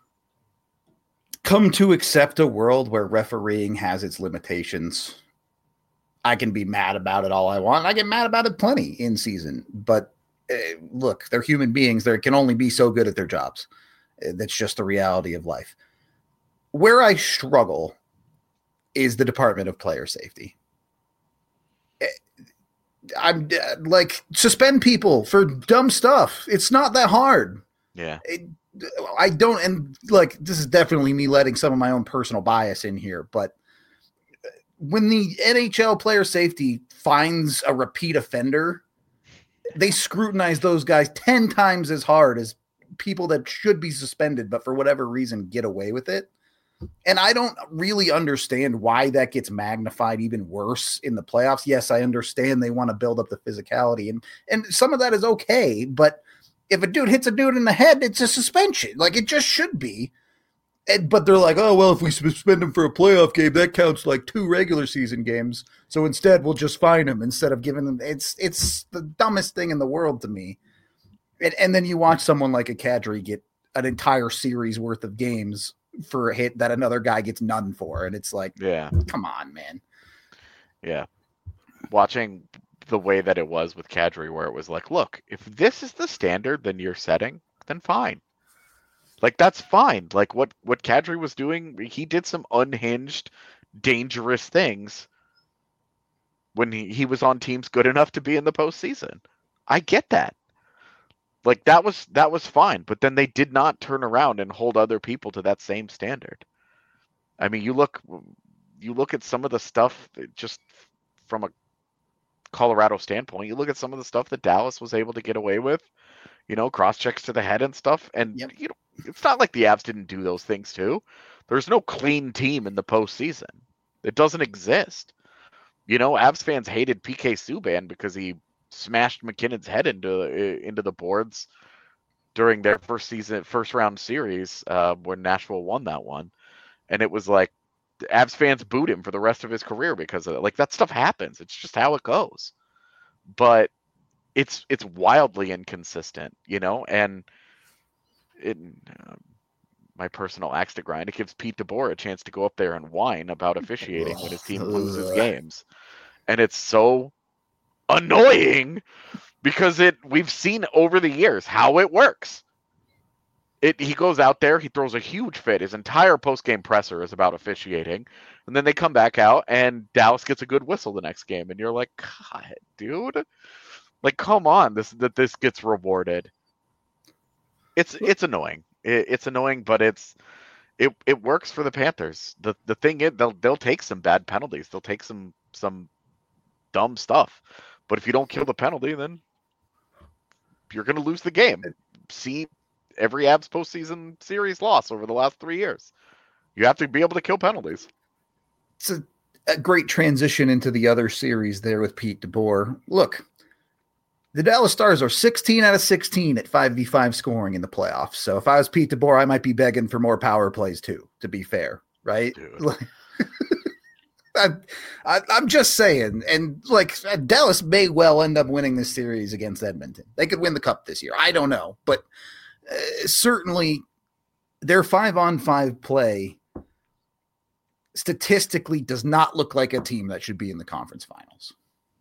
come to accept a world where refereeing has its limitations. I can be mad about it all I want. I get mad about it plenty in season. But uh, look, they're human beings. They can only be so good at their jobs. Uh, that's just the reality of life. Where I struggle is the Department of Player Safety. Uh, I'm uh, like, suspend people for dumb stuff. It's not that hard.
Yeah.
It, I don't, and like, this is definitely me letting some of my own personal bias in here, but when the N H L player safety finds a repeat offender, they scrutinize those guys ten times as hard as people that should be suspended, but for whatever reason get away with it. And I don't really understand why that gets magnified even worse in the playoffs. Yes, I understand they want to build up the physicality, and, and some of that is okay, but if a dude hits a dude in the head, it's a suspension. Like, it just should be. And, but they're like, oh, well, if we suspend him for a playoff game, that counts like two regular season games. So instead, we'll just fine him instead of giving them. It's it's the dumbest thing in the world to me. And, and then you watch someone like a Kadri get an entire series worth of games for a hit that another guy gets none for. And it's like,
yeah,
come on, man.
Yeah. Watching the way that it was with Kadri, where it was like, look, if this is the standard then you're setting, then fine. Like, that's fine. Like, what, what Kadri was doing, he did some unhinged, dangerous things when he, he was on teams good enough to be in the postseason. I get that. Like that was that was fine, but then they did not turn around and hold other people to that same standard. I mean, you look you look at some of the stuff just from a Colorado standpoint. You look at some of the stuff that Dallas was able to get away with, you know, cross checks to the head and stuff. And
Yep.
you know, it's not like the Avs didn't do those things too. There's no clean team in the postseason. It doesn't exist. You know, Avs fans hated P K Subban because he smashed McKinnon's head into into the boards during their first season, first round series uh, when Nashville won that one, and it was like the Avs fans booed him for the rest of his career because of it. Like that stuff happens. It's just how it goes. But it's it's wildly inconsistent, you know, and it. Uh, my personal axe to grind, it gives Pete DeBoer a chance to go up there and whine about officiating when his team loses games. And it's so annoying because it we've seen over the years how it works. It he goes out there, he throws a huge fit. His entire post-game presser is about officiating. And then they come back out and Dallas gets a good whistle the next game. And you're like, God, dude. Like, come on, this that this gets rewarded. It's it's annoying. It, it's annoying, but it's it it works for the Panthers. The the thing is they'll they'll take some bad penalties. They'll take some some dumb stuff. But if you don't kill the penalty, then you're gonna lose the game. See every Avs postseason series loss over the last three years. You have to be able to kill penalties.
It's a, a great transition into the other series there with Pete DeBoer. Look, the Dallas Stars are sixteen out of sixteen at five v five scoring in the playoffs. So if I was Pete DeBoer, I might be begging for more power plays too, to be fair, right? I'm, I, I'm just saying. And like Dallas may well end up winning this series against Edmonton. They could win the cup this year. I don't know. But uh, certainly their five on five play statistically does not look like a team that should be in the conference finals.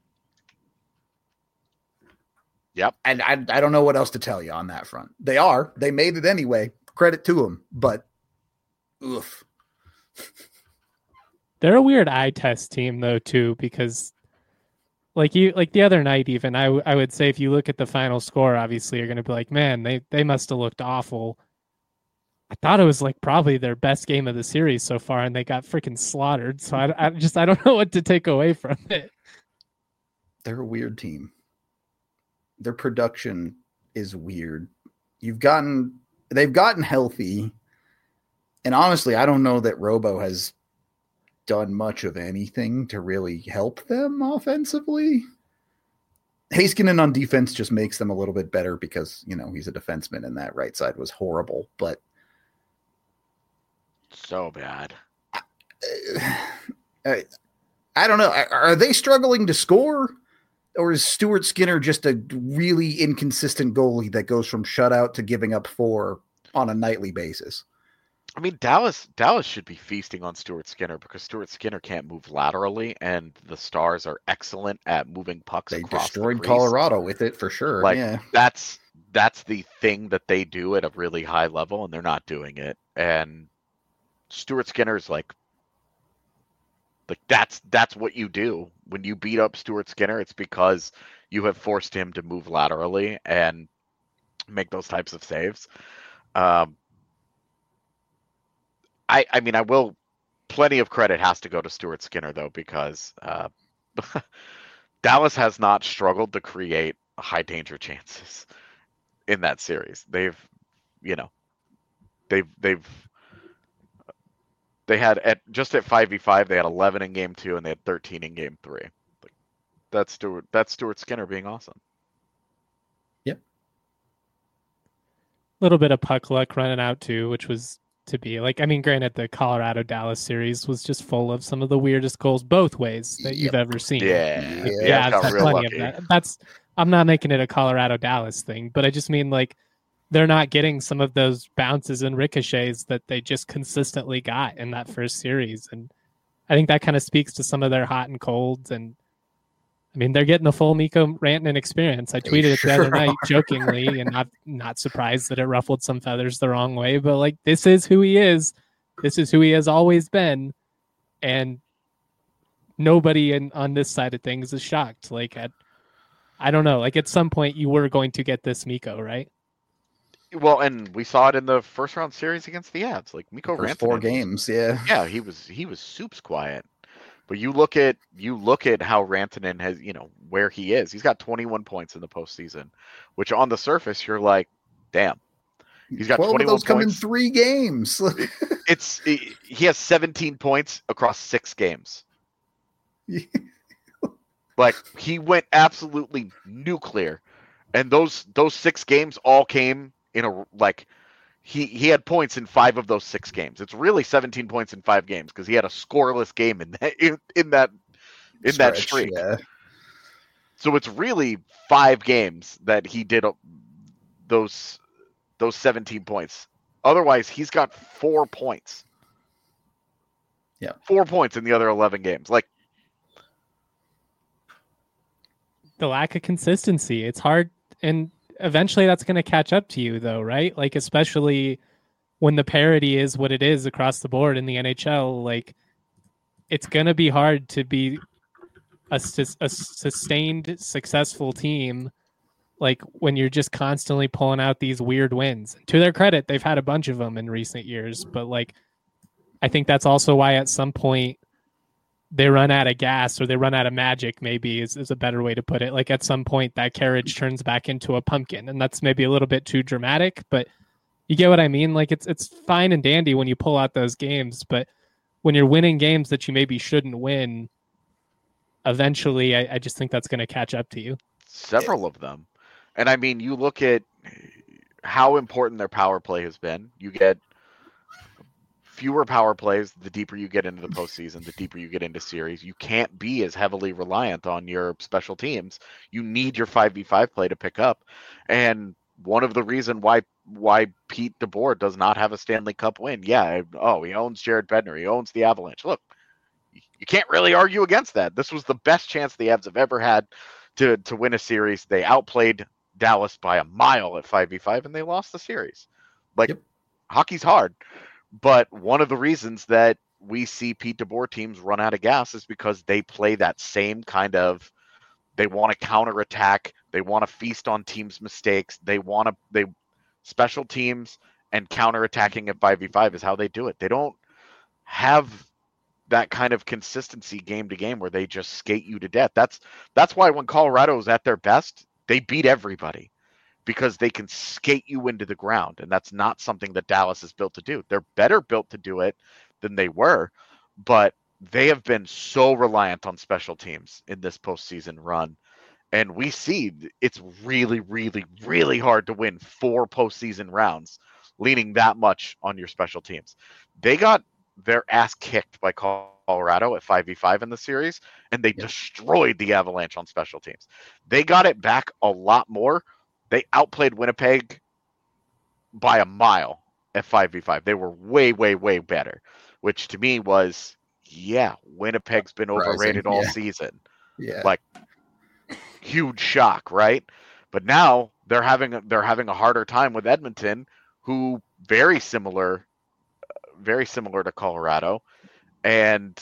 Yep.
And I, I don't know what else to tell you on that front. They are. They made it anyway. Credit to them. But, oof.
They're a weird eye test team, though, too, because like you, like the other night, even, I, w- I would say if you look at the final score, obviously you're going to be like, man, they, they must have looked awful. I thought it was like probably their best game of the series so far, and they got freaking slaughtered. So I, I just I don't know what to take away from it.
They're a weird team. Their production is weird. You've gotten, they've gotten healthy. And honestly, I don't know that Robo has done much of anything to really help them offensively. Heiskanen on defense just makes them a little bit better because, you know, he's a defenseman and that right side was horrible, but
so bad.
I, I don't know. Are, are they struggling to score? Or is Stuart Skinner just a really inconsistent goalie that goes from shutout to giving up four on a nightly basis?
I mean, Dallas Dallas should be feasting on Stuart Skinner because Stuart Skinner can't move laterally, and the Stars are excellent at moving pucks
They
across
destroyed
the crease.
Colorado with it for sure.
Like
yeah.
that's that's the thing that they do at a really high level, and they're not doing it. And Stuart Skinner's like, like that's that's what you do when you beat up Stuart Skinner. It's because you have forced him to move laterally and make those types of saves. Um, I, I mean, I will. Plenty of credit has to go to Stuart Skinner though, because uh, Dallas has not struggled to create high danger chances in that series. They've, you know, they've they've they had at just at five v five they had eleven in game two and they had thirteen in game three. Like, that's Stuart. That's Stuart Skinner being awesome.
Yep.
A little bit of puck luck running out too, which was to be like, I mean, granted, the Colorado Dallas series was just full of some of the weirdest goals both ways that you've
Yep.
ever seen.
Yeah,
Yeah,
yeah,
yeah,
I've
got
had
real
plenty
lucky.
of that. That's I'm not making it a Colorado Dallas thing, but I just mean like they're not getting some of those bounces and ricochets that they just consistently got in that first series, and I think that kind of speaks to some of their hot and colds. And I mean, they're getting the full Mikko Rantanen experience. I
They
tweeted it the other
sure
night
are.
jokingly, and I'm not surprised that it ruffled some feathers the wrong way. But like, this is who he is. This is who he has always been, and nobody in on this side of things is shocked. Like, I, I don't know. Like at some point, you were going to get this Mikko, right?
Well, and we saw it in the first round series against the Avs. Like Mikko
First
Rantanen
four
was-
games, yeah.
yeah, he was he was soups quiet. But you look at you look at how Rantanen has, you know, where he is. He's got twenty-one points in the postseason, which on the surface you're like, damn. He's got
twelve of
twenty-one
those come in
points.
three games.
It's he has seventeen points across six games. Like he went absolutely nuclear, and those those six games all came in a like he he had points in five of those six games. It's really seventeen points in five games because he had a scoreless game in that in, in that in that
Stretch,
streak.
yeah.
So it's really five games that he did uh, those those seventeen points. Otherwise, he's got four points.
Yeah,
four points in the other eleven games. Like
the lack of consistency. It's hard, and eventually that's going to catch up to you, though, right? Like especially when the parity is what it is across the board in the N H L. Like it's going to be hard to be a, sus- a sustained, successful team. Like when you're just constantly pulling out these weird wins. To their credit, they've had a bunch of them in recent years, but like I think that's also why at some point they run out of gas or they run out of magic, maybe is, is a better way to put it. Like at some point that carriage turns back into a pumpkin, and that's maybe a little bit too dramatic, but you get what I mean? Like it's it's fine and dandy when you pull out those games, but when you're winning games that you maybe shouldn't win, eventually I, I just think that's going to catch up to you.
several of them. And I mean, you look at how important their power play has been. You get fewer power plays the deeper you get into the postseason, the deeper you get into series. You can't be as heavily reliant on your special teams. You need your five v five play to pick up. And one of the reasons why why Pete DeBoer does not have a Stanley Cup win, yeah, oh, he owns Jared Bednar, he owns the Avalanche. Look, you can't really argue against that. This was the best chance the Avs have ever had to to win a series. They outplayed Dallas by a mile at five v five, and they lost the series. Like,
Yep.
Hockey's hard. But one of the reasons that we see Pete DeBoer teams run out of gas is because they play that same kind of, they want to counterattack, they want to feast on teams' mistakes, they want to, they, special teams and counterattacking at five v five is how they do it. They don't have that kind of consistency game to game where they just skate you to death. That's that's why when Colorado's at their best, they beat everybody, because they can skate you into the ground, and that's not something that Dallas is built to do. They're better built to do it than they were, but they have been so reliant on special teams in this postseason run. And we see it's really, really, really hard to win four postseason rounds leaning that much on your special teams. They got their ass kicked by Colorado at five v five in the series, and they
Yep.
destroyed the Avalanche on special teams. They got it back a lot more. They outplayed Winnipeg by a mile at five v five. They were way, way, way better, which to me was, yeah, Winnipeg's been
Surprising,
overrated all
yeah.
season.
Yeah.
Like, huge shock, right? But now they're having a, they're having a harder time with Edmonton, who very similar, very similar to Colorado, and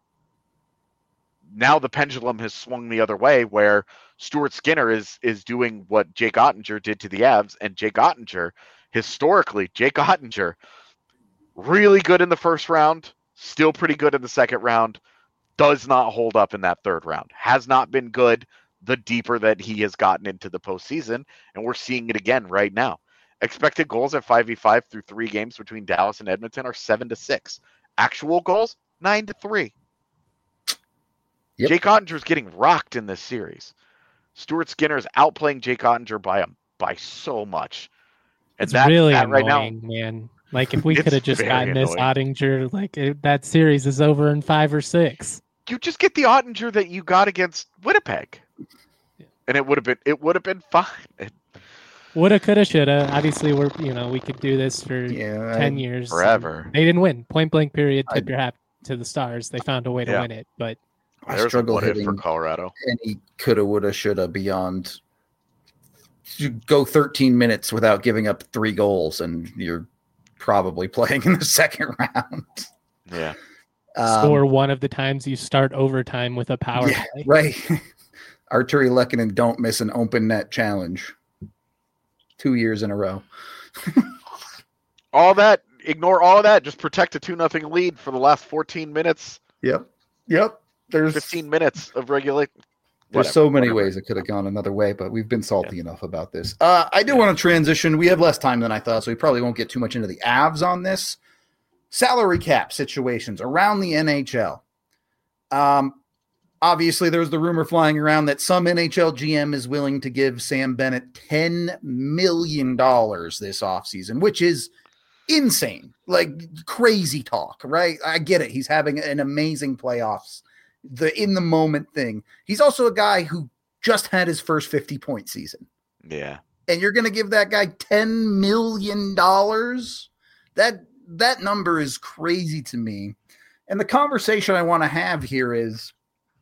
now the pendulum has swung the other way, where Stuart Skinner is is doing what Jake Ottinger did to the Avs, and Jake Ottinger, historically, Jake Ottinger, really good in the first round, still pretty good in the second round, does not hold up in that third round, has not been good the deeper that he has gotten into the postseason, and we're seeing it again right now. Expected goals at five v five through three games between Dallas and Edmonton are seven to six. Actual goals, nine to three.
Yep.
Jake Ottinger is getting rocked in this series. Stuart Skinner is outplaying Jake Ottinger by a, by so much. And
It's
that,
really
that right now,
annoying, man. Like if we
It's
could have just
very
gotten this
annoying.
Ottinger, like it, that series is over in five or six.
you just get the Ottinger that you got against Winnipeg, and it would have been it would have been fine. It-
Woulda, coulda, shoulda. Obviously, we're you know we could do this for
Yeah.
ten
I-
years.
Forever.
They didn't win. Point blank. Period.
I-
Tip your hat to the Stars. They found a way to
Yeah.
win it. But
I
There's a
struggle
what if
hitting
for Colorado.
any coulda, woulda, shoulda beyond. You go thirteen minutes without giving up three goals, and you're probably playing in the second round.
Yeah.
Um,
score one of the times you start overtime with a power
yeah,
play.
right. Arturi Lehkonen don't miss an open net challenge. Two years in a row.
all that, ignore all of that. Just protect a two nothing lead for the last fourteen minutes.
Yep. Yep. There's
fifteen minutes of regulation.
There's
Whatever,
so many
whatever.
ways it could have gone another way, but we've been salty yeah. enough about this. Uh, I do yeah. want to transition. We have less time than I thought, so we probably won't get too much into the Avs on this. Salary cap situations around the N H L. Um, obviously, there's the rumor flying around that some N H L G M is willing to give Sam Bennett ten million dollars this offseason, which is insane. Like, crazy talk, right? I get it. He's having an amazing playoffs. The in the moment thing. He's also a guy who just had his first fifty point season.
Yeah.
And you're going to give that guy ten million dollars? That that number is crazy to me. And the conversation I want to have here is,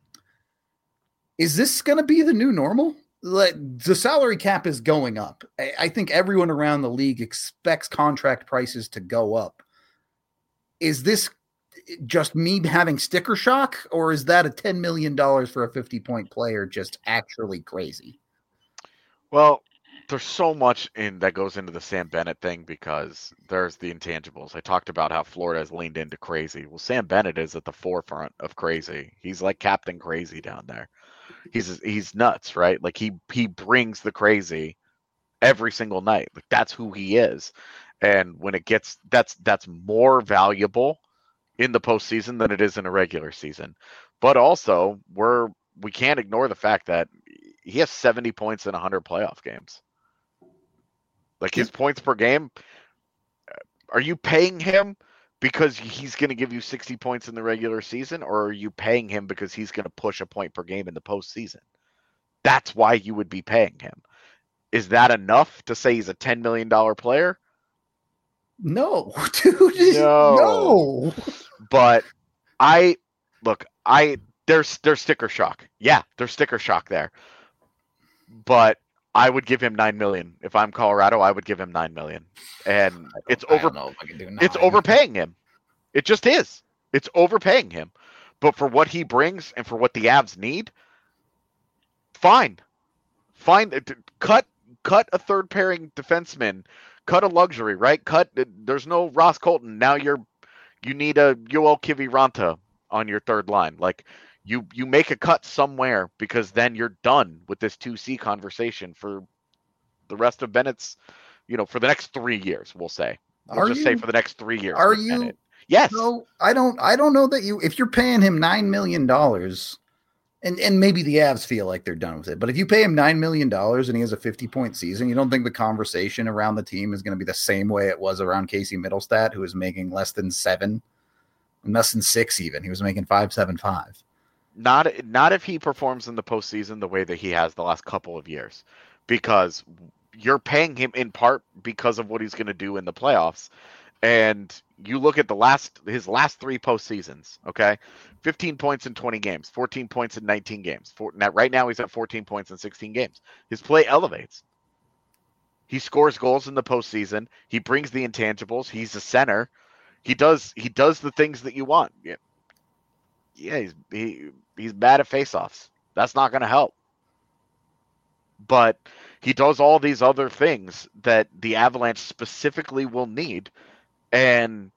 is this going to be the new normal? Like, the salary cap is going up. I, I think everyone around the league expects contract prices to go up. Is this just me having sticker shock, or is that a ten million dollars for a fifty point player just actually crazy?
Well, there's so much in that goes into the Sam Bennett thing because there's the intangibles. I talked about how Florida has leaned into crazy. Well, Sam Bennett is at the forefront of crazy. He's like Captain Crazy down there. He's he's nuts, right? Like he he brings the crazy every single night. Like that's who he is. And when it gets that's that's more valuable in the postseason than it is in a regular season. But also, we're we can't ignore the fact that he has seventy points in one hundred playoff games. Like his points per game, are you paying him because he's going to give you sixty points in the regular season, or are you paying him because he's going to push a point per game in the postseason? That's why you would be paying him. Is that enough to say he's a ten million dollars player?
No, dude.
No.
No.
But I look, I there's there's sticker shock. Yeah, there's sticker shock there. But I would give him nine million. If I'm Colorado, I would give him nine million. And it's over it's overpaying him. It just is. It's overpaying him. But for what he brings and for what the Avs need, fine. Fine. Cut cut a third pairing defenseman. Cut a luxury, right? Cut there's no Ross Colton. Now you're you need a Yoel Kiviranta on your third line. Like you you make a cut somewhere because then you're done with this two C conversation for the rest of Bennett's, you know, for the next three years, we'll say. We'll
are
just
you,
say for the next three years.
Are you?
Bennett. Yes.
No, I don't I don't know that you if you're paying him nine million dollars, and, and maybe the Avs feel like they're done with it, but if you pay him nine million dollars and he has a fifty point season, you don't think the conversation around the team is going to be the same way it was around Casey Middlestat, who was making less than seven, less than six even. He was making five, seven, five.
Not not if he performs in the postseason the way that he has the last couple of years, because you're paying him in part because of what he's going to do in the playoffs. And you look at the last his last three postseasons, okay? fifteen points in twenty games, fourteen points in nineteen games. For, now, right now, he's at fourteen points in sixteen games. His play elevates. He scores goals in the postseason. He brings the intangibles. He's a center. He does he does the things that you want. Yeah, yeah he's he, he's bad at faceoffs. That's not going to help. But he does all these other things that the Avalanche specifically will need. And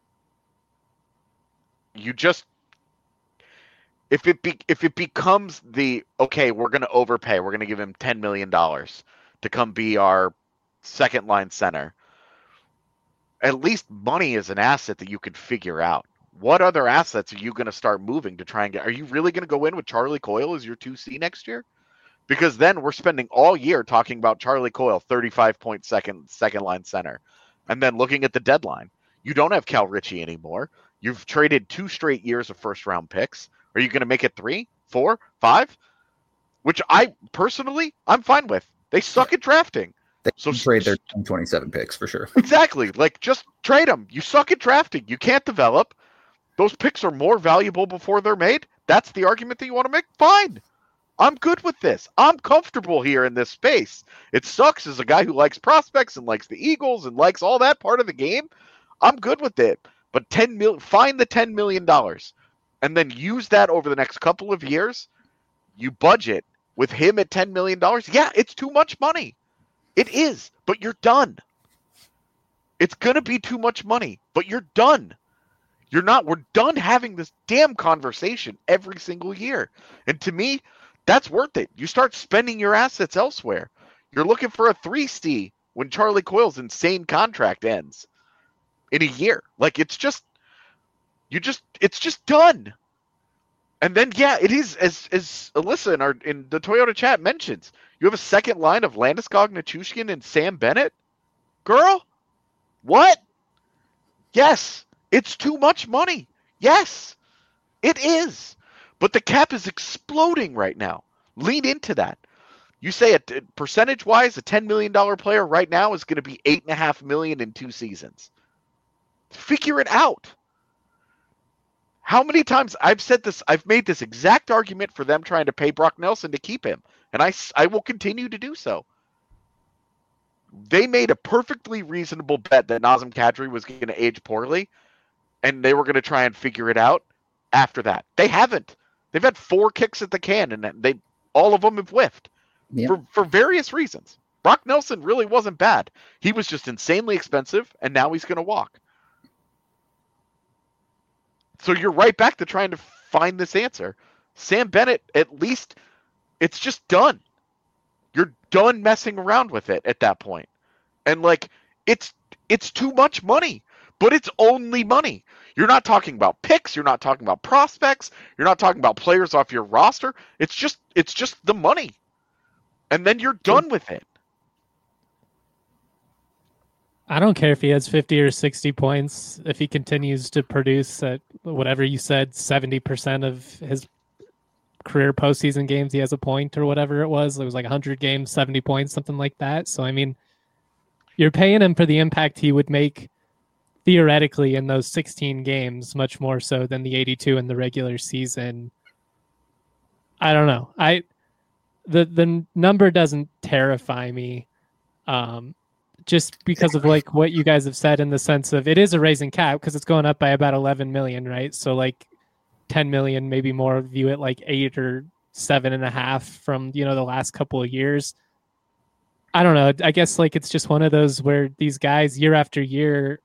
you just if it be, if it becomes the okay, we're going to overpay, we're going to give him ten million dollars to come be our second line center. At least money is an asset that you could figure out. What other assets are you going to start moving to try and get? Are you really going to go in with Charlie Coyle as your two C next year? Because then we're spending all year talking about Charlie Coyle, thirty-five point second second line center. And then looking at the deadline, you don't have Cal Ritchie anymore. You've traded two straight years of first round picks. Are you going to make it three, four, five? Which I personally, I'm fine with. They suck at drafting.
They
so
trade their twenty-seven picks for sure.
Exactly. Like just trade them. You suck at drafting. You can't develop. Those picks are more valuable before they're made. That's the argument that you want to make. Fine. I'm good with this. I'm comfortable here in this space. It sucks as a guy who likes prospects and likes the Eagles and likes all that part of the game. I'm good with it. But ten mil, find the ten million dollars and then use that over the next couple of years. You budget with him at ten million dollars, yeah, it's too much money. It is, but you're done. It's going to be too much money, but you're done. You're not. We're done having this damn conversation every single year. And to me, that's worth it. You start spending your assets elsewhere. You're looking for a three C when Charlie Coyle's insane contract ends in a year. Like, it's just, you just, it's just done. And then, yeah, it is, as as Alyssa in, our, in the Toyota chat mentions, you have a second line of Landeskog, Nichushkin, and Sam Bennett? Girl? What? Yes, it's too much money. Yes, it is. But the cap is exploding right now. Lean into that. You say, a, percentage-wise, a ten million dollars player right now is going to be eight point five million dollars in two seasons. Figure it out. How many times I've said this, I've made this exact argument for them trying to pay Brock Nelson to keep him, and I, I will continue to do so. They made a perfectly reasonable bet that Nazem Kadri was going to age poorly, and they were going to try and figure it out after that. They haven't. They've had four kicks at the can, and they all of them have whiffed
Yep.
for, for various reasons. Brock Nelson really wasn't bad. He was just insanely expensive, and now he's going to walk. So you're right back to trying to find this answer. Sam Bennett, at least, it's just done. You're done messing around with it at that point. And, like, it's it's too much money, but it's only money. You're not talking about picks. You're not talking about prospects. You're not talking about players off your roster. It's just it's just the money. And then you're done with it.
I don't care if he has fifty or sixty points. If he continues to produce at whatever you said, seventy percent of his career postseason games, he has a point or whatever it was. It was like one hundred games, seventy points, something like that. So, I mean, you're paying him for the impact he would make theoretically in those sixteen games, much more so than the eighty-two in the regular season. I don't know. I the the number doesn't terrify me. Um, just because of like what you guys have said in the sense of it is a raising cap because it's going up by about eleven million, right? So like ten million, maybe more view it like eight or seven and a half from, you know, the last couple of years. I don't know. I guess like it's just one of those where these guys year after year,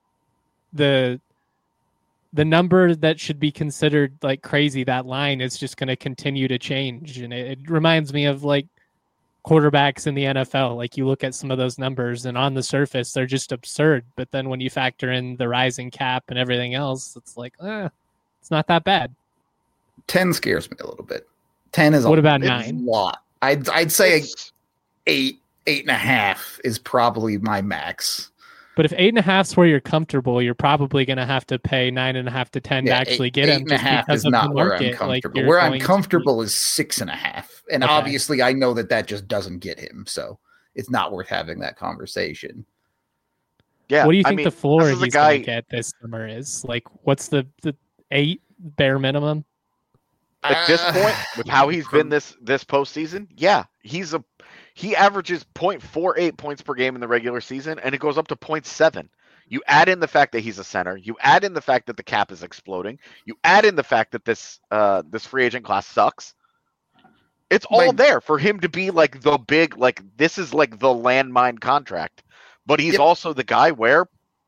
the the number that should be considered like crazy, that line is just going to continue to change. And it, it reminds me of like quarterbacks in the N F L. Like you look at some of those numbers and on the surface, they're just absurd. But then when you factor in the rising cap and everything else, it's like, eh, it's not that bad.
ten scares me a little bit. ten is
what
a,
about nine?
A lot. I'd, I'd say eight, eight and a half is probably my max.
But if eight and a half is where you're comfortable, you're probably going to have to pay nine and a half to ten
yeah,
to actually
eight,
get him.
Eight and a half is not where I'm comfortable.
Like
where I'm comfortable to... is six and a half. And
okay.
Obviously I know that that just doesn't get him. So it's not worth having that conversation.
Yeah.
What do you think
I mean,
the floor he's
guy...
going to get this summer is? Like, what's the, the eight bare minimum?
At this point, with how he's been this this postseason, yeah, he's a he averages zero point four eight points per game in the regular season, and it goes up to zero point seven. You add in the fact that he's a center. You add in the fact that the cap is exploding. You add in the fact that this uh, this free agent class sucks. It's all like, there for him to be like the big, like this is like the landmine contract. But he's yep. also the guy where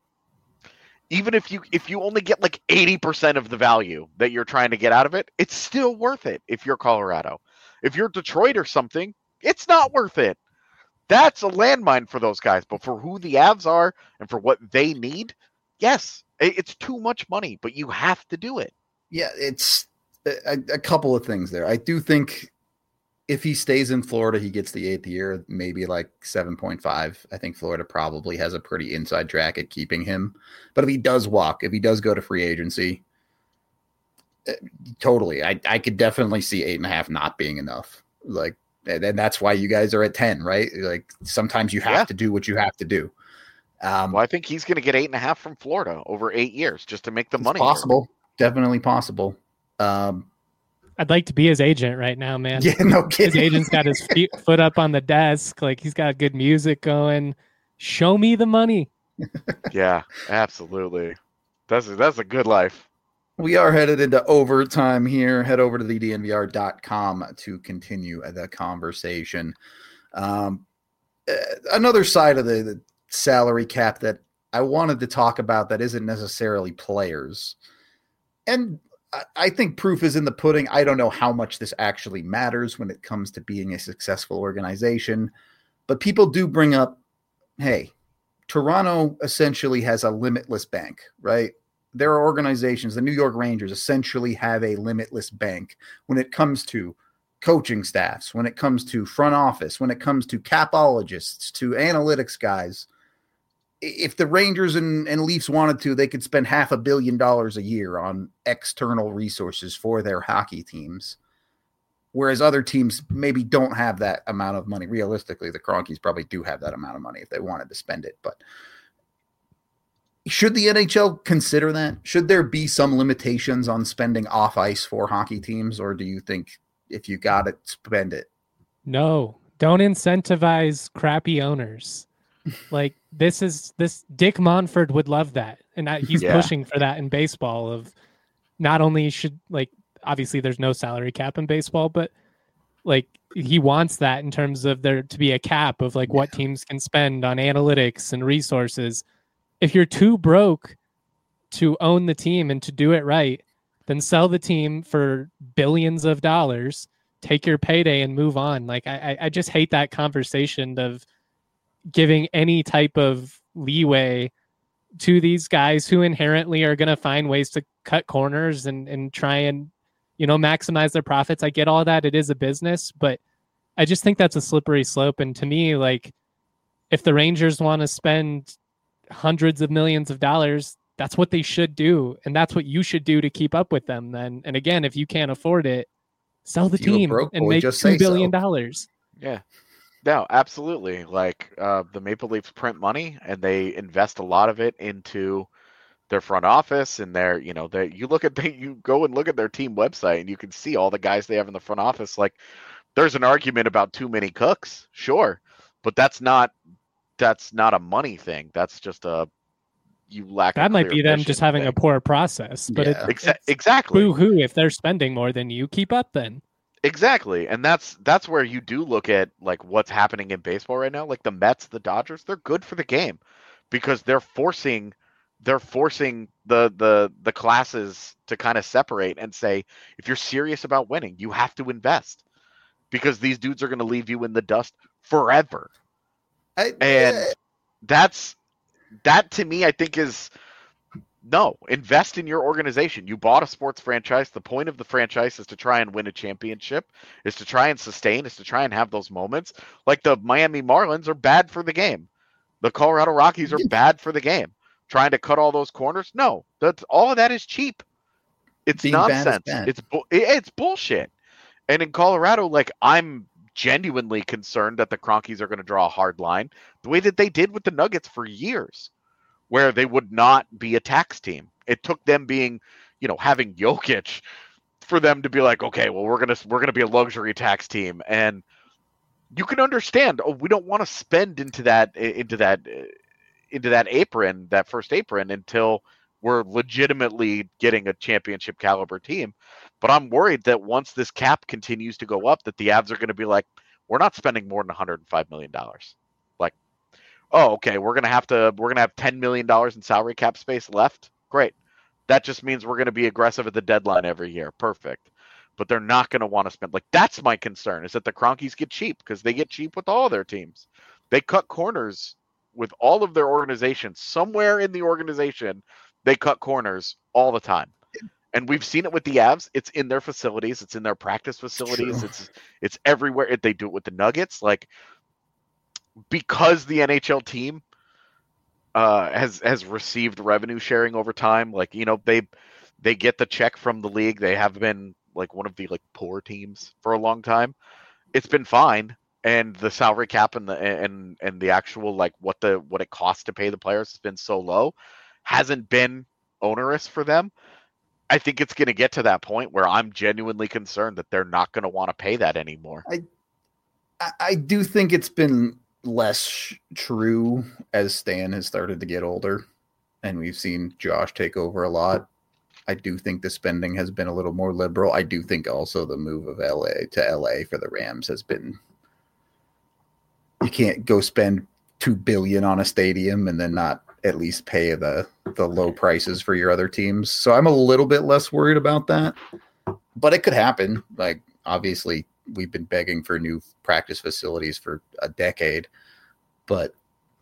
even if you if you only get like eighty percent of the value that you're trying to get out of it, it's still worth it if you're Colorado. If you're Detroit or something, it's not worth it. That's a landmine for those guys. But for who the Avs are and for what they need, yes, it's too much money, but you have to do it.
Yeah, it's a, a couple of things there. I do think if he stays in Florida, he gets the eighth year, maybe like seven point five. I think Florida probably has a pretty inside track at keeping him. But if he does walk, if he does go to free agency, totally. I, I could definitely see eight and a half not being enough. Like, and that's why you guys are at ten, right? Like sometimes you have yeah. to do what you have to do. Um,
well, I think he's going to get eight and a half from Florida over eight years just to make the
it's
money.
Possible. Definitely possible. Um,
I'd like to be his agent right now, man.
Yeah, no kidding.
His agent's got his feet, foot up on the desk. Like he's got good music going. Show me the money.
Yeah, absolutely. That's a, that's a good life.
We are headed into overtime here. Head over to the D N V R dot com to continue the conversation. Um, another side of the, the salary cap that I wanted to talk about that isn't necessarily players. And I, I think proof is in the pudding. I don't know how much this actually matters when it comes to being a successful organization. But people do bring up, hey, Toronto essentially has a limitless bank, right? There are organizations, the New York Rangers essentially have a limitless bank when it comes to coaching staffs, when it comes to front office, when it comes to capologists, to analytics guys. If the Rangers and, and Leafs wanted to, they could spend half a billion dollars a year on external resources for their hockey teams. Whereas other teams maybe don't have that amount of money. Realistically, the Kroenkes probably do have that amount of money if they wanted to spend it, but should the N H L consider that? Should there be some limitations on spending off ice for hockey teams, or do you think if you got it, spend it?
No, don't incentivize crappy owners. Like this is this Dick Monfort would love that, and I, he's
Yeah.
pushing for that in baseball. Of not only should like obviously there's no salary cap in baseball, but like he wants that in terms of there to be a cap of like what teams can spend on analytics and resources. If you're too broke to own the team and to do it right, then sell the team for billions of dollars, take your payday and move on. Like I, I just hate that conversation of giving any type of leeway to these guys who inherently are going to find ways to cut corners and, and try and, you know, maximize their profits. I get all that. It is a business, but I just think that's a slippery slope. And to me, like if the Rangers want to spend hundreds of millions of dollars, that's what they should do, and that's what you should do to keep up with them then. And again, if you can't afford it, sell the
If you a
team
broke
and
boy,
make
just
two
say
billion
so.
dollars.
Yeah. No, absolutely. Like uh, the Maple Leafs print money and they invest a lot of it into their front office and their, you know, they you look at the, you go and look at their team website and you can see all the guys they have in the front office. Like there's an argument about too many cooks, sure, but that's not that's not a money thing. That's just a you lack.
That
a
might
clear
be them
vision
just having
thing.
a poor process, but
Yeah.
it,
Exa-
it's
exactly.
boo-hoo if they're spending more than you. Keep up then.
Exactly. And that's that's where you do look at like what's happening in baseball right now. Like the Mets, the Dodgers, they're good for the game because they're forcing they're forcing the the the classes to kind of separate and say, if you're serious about winning, you have to invest because these dudes are going to leave you in the dust forever.
I,
And that's that to me, I think is no, invest in your organization. You bought a sports franchise. The point of the franchise is to try and win a championship, is to try and sustain, is to try and have those moments. Like the Miami Marlins are bad for the game. The Colorado Rockies are bad for the game. Trying to cut all those corners? No, that's all of that is cheap. It's
Being bad is
nonsense.
bad.
It's bu- it's bullshit. And in Colorado, like I'm genuinely concerned that the Kroenkes are going to draw a hard line, the way that they did with the Nuggets for years, where they would not be a tax team. It took them being, you know, having Jokic for them to be like, okay, well, we're gonna we're gonna be a luxury tax team, and you can understand. Oh, we don't want to spend into that into that into that apron, that first apron, until we're legitimately getting a championship caliber team. But I'm worried that once this cap continues to go up, that the Avs are going to be like, we're not spending more than one hundred five million dollars. Like, oh, okay, we're gonna have to we're gonna have ten million dollars in salary cap space left. Great. That just means we're gonna be aggressive at the deadline every year. Perfect. But they're not gonna want to spend, like, that's my concern, is that the Kroenkes get cheap because they get cheap with all their teams. They cut corners with all of their organizations. Somewhere in the organization, they cut corners all the time. And we've seen it with the Avs. It's in their facilities, it's in their practice facilities,
True.
it's it's everywhere. They do it with the Nuggets. Like, because the N H L team uh, has has received revenue sharing over time, like, you know, they they get the check from the league. They have been like one of the like poor teams for a long time. It's been fine, and the salary cap and the and and the actual like what the what it costs to pay the players has been so low, hasn't been onerous for them. I think it's going to get to that point where I'm genuinely concerned that they're not going to want to pay that anymore.
I, I do think it's been less true as Stan has started to get older and we've seen Josh take over a lot. I do think the spending has been a little more liberal. I do think also the move of L A to L A for the Rams has been. You can't go spend two billion on a stadium and then not at least pay the the low prices for your other teams. So I'm a little bit less worried about that, but it could happen. Like obviously we've been begging for new practice facilities for a decade, but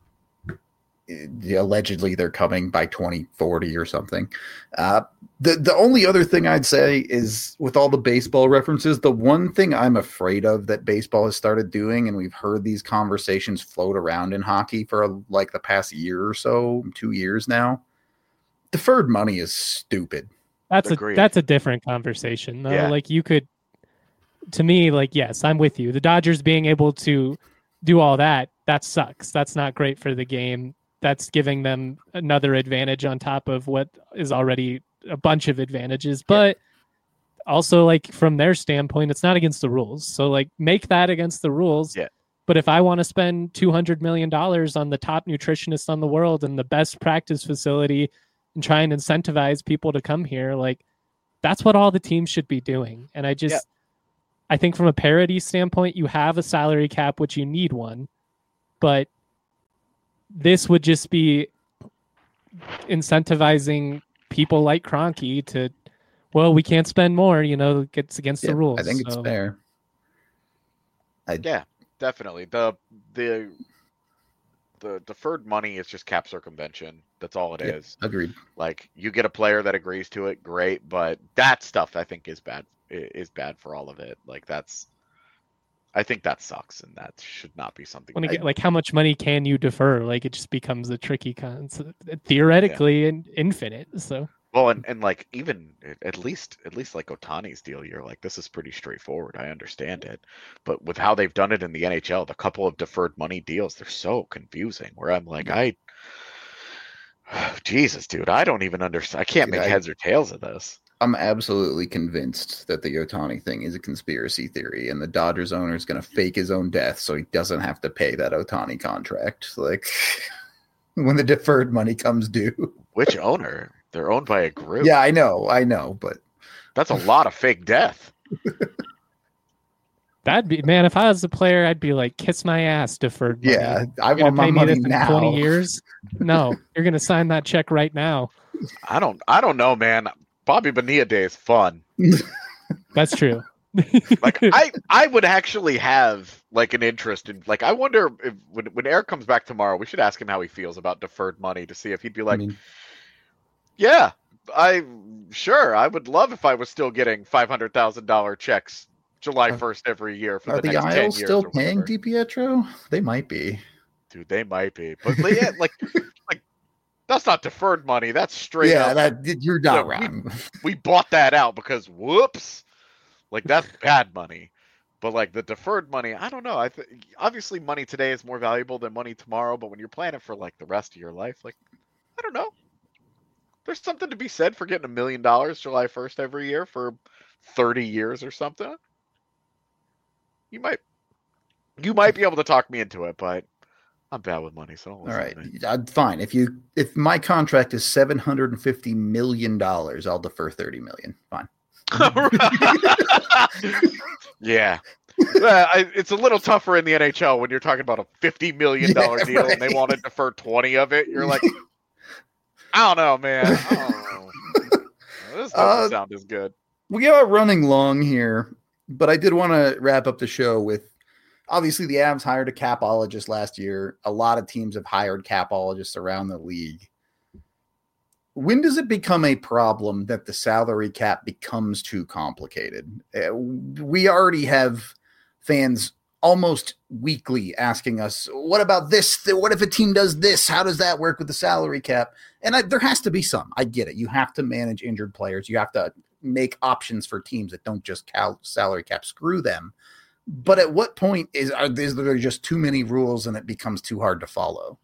allegedly they're coming by twenty forty or something. Uh, the, the only other thing I'd say is with all the baseball references, the one thing I'm afraid of that baseball has started doing, and we've heard these conversations float around in hockey for like the past year or so, two years now, deferred money is stupid.
That's
Agreed.
a, that's a different conversation though.
Yeah.
Like you could, to me, like, yes, I'm with you. The Dodgers being able to do all that, that sucks. That's not great for the game. That's giving them another advantage on top of what is already a bunch of advantages. But yeah. also, like, from their standpoint, it's not against the rules. So, like, make that against the rules.
Yeah.
But if I want to spend two hundred million dollars on the top nutritionist on the world and the best practice facility and try and incentivize people to come here, like, that's what all the teams should be doing. And I just, yeah. I think from a parity standpoint, you have a salary cap, which you need one. But this would just be incentivizing people like Kroenke to, well, we can't spend more, you know, it's against yeah, the rules.
I think it's
so.
fair.
I... Yeah, definitely. The the the deferred money is just cap circumvention. That's all it
yeah,
is.
Agreed.
Like you get a player that agrees to it, great, but that stuff I think is bad is bad for all of it. Like that's I think that sucks, and that should not be something.
When
that...
get, like, how much money can you defer? Like, it just becomes a tricky concept, theoretically yeah. and infinite. So,
well, and, and like even at least at least like Ohtani's deal, you're like, this is pretty straightforward. I understand it, but with how they've done it in the N H L, the couple of deferred money deals, they're so confusing. Where I'm like, I, Jesus, dude, I don't even understand. I can't dude, make I... heads or tails of this.
I'm absolutely convinced that the Ohtani thing is a conspiracy theory, and the Dodgers owner is going to fake his own death so he doesn't have to pay that Ohtani contract. Like when the deferred money comes due.
Which owner? They're owned by a group.
Yeah, I know, I know, but
that's a lot of fake death.
That'd be man. If I was a player, I'd be like, kiss my ass, deferred money.
Yeah, I want my money now.
Twenty years? No, you're going to sign that check right now.
I don't. I don't know, man. Bobby Bonilla Day is fun.
That's true.
Like I, I would actually have like an interest in like I wonder if when when Eric comes back tomorrow, we should ask him how he feels about deferred money to see if he'd be like, I mean, yeah, I sure I would love if I was still getting five hundred thousand dollar checks July first every year for
are
the,
the
next
Isles
ten years.
Still paying DiPietro? They might be.
Dude, they might be, but yeah, like like. That's not deferred money. That's straight
yeah,
up.
That, you're not
you know,
wrong.
We, we bought that out because whoops, like that's bad money. But like the deferred money, I don't know. I th- obviously money today is more valuable than money tomorrow. But when you're planning for like the rest of your life, like I don't know. There's something to be said for getting a million dollars July first every year for thirty years or something. You might, you might be able to talk me into it, but. I'm bad with money, so don't
all right, I'm fine. If you if my contract is seven hundred and fifty million dollars, I'll defer thirty million. Fine.
Yeah, uh, I, it's a little tougher in the N H L when you're talking about a fifty million dollar yeah, deal right. and they want to defer twenty of it. You're like, I don't know, man. I don't know. This doesn't uh, sound as good.
We are running long here, but I did want to wrap up the show with. Obviously, the Avs hired a capologist last year. A lot of teams have hired capologists around the league. When does it become a problem that the salary cap becomes too complicated? Uh, we already have fans almost weekly asking us, what about this? What if a team does this? How does that work with the salary cap? And I, there has to be some. I get it. You have to manage injured players. You have to make options for teams that don't just cal- salary cap screw them. But at what point is, are, is there just too many rules and it becomes too hard to follow?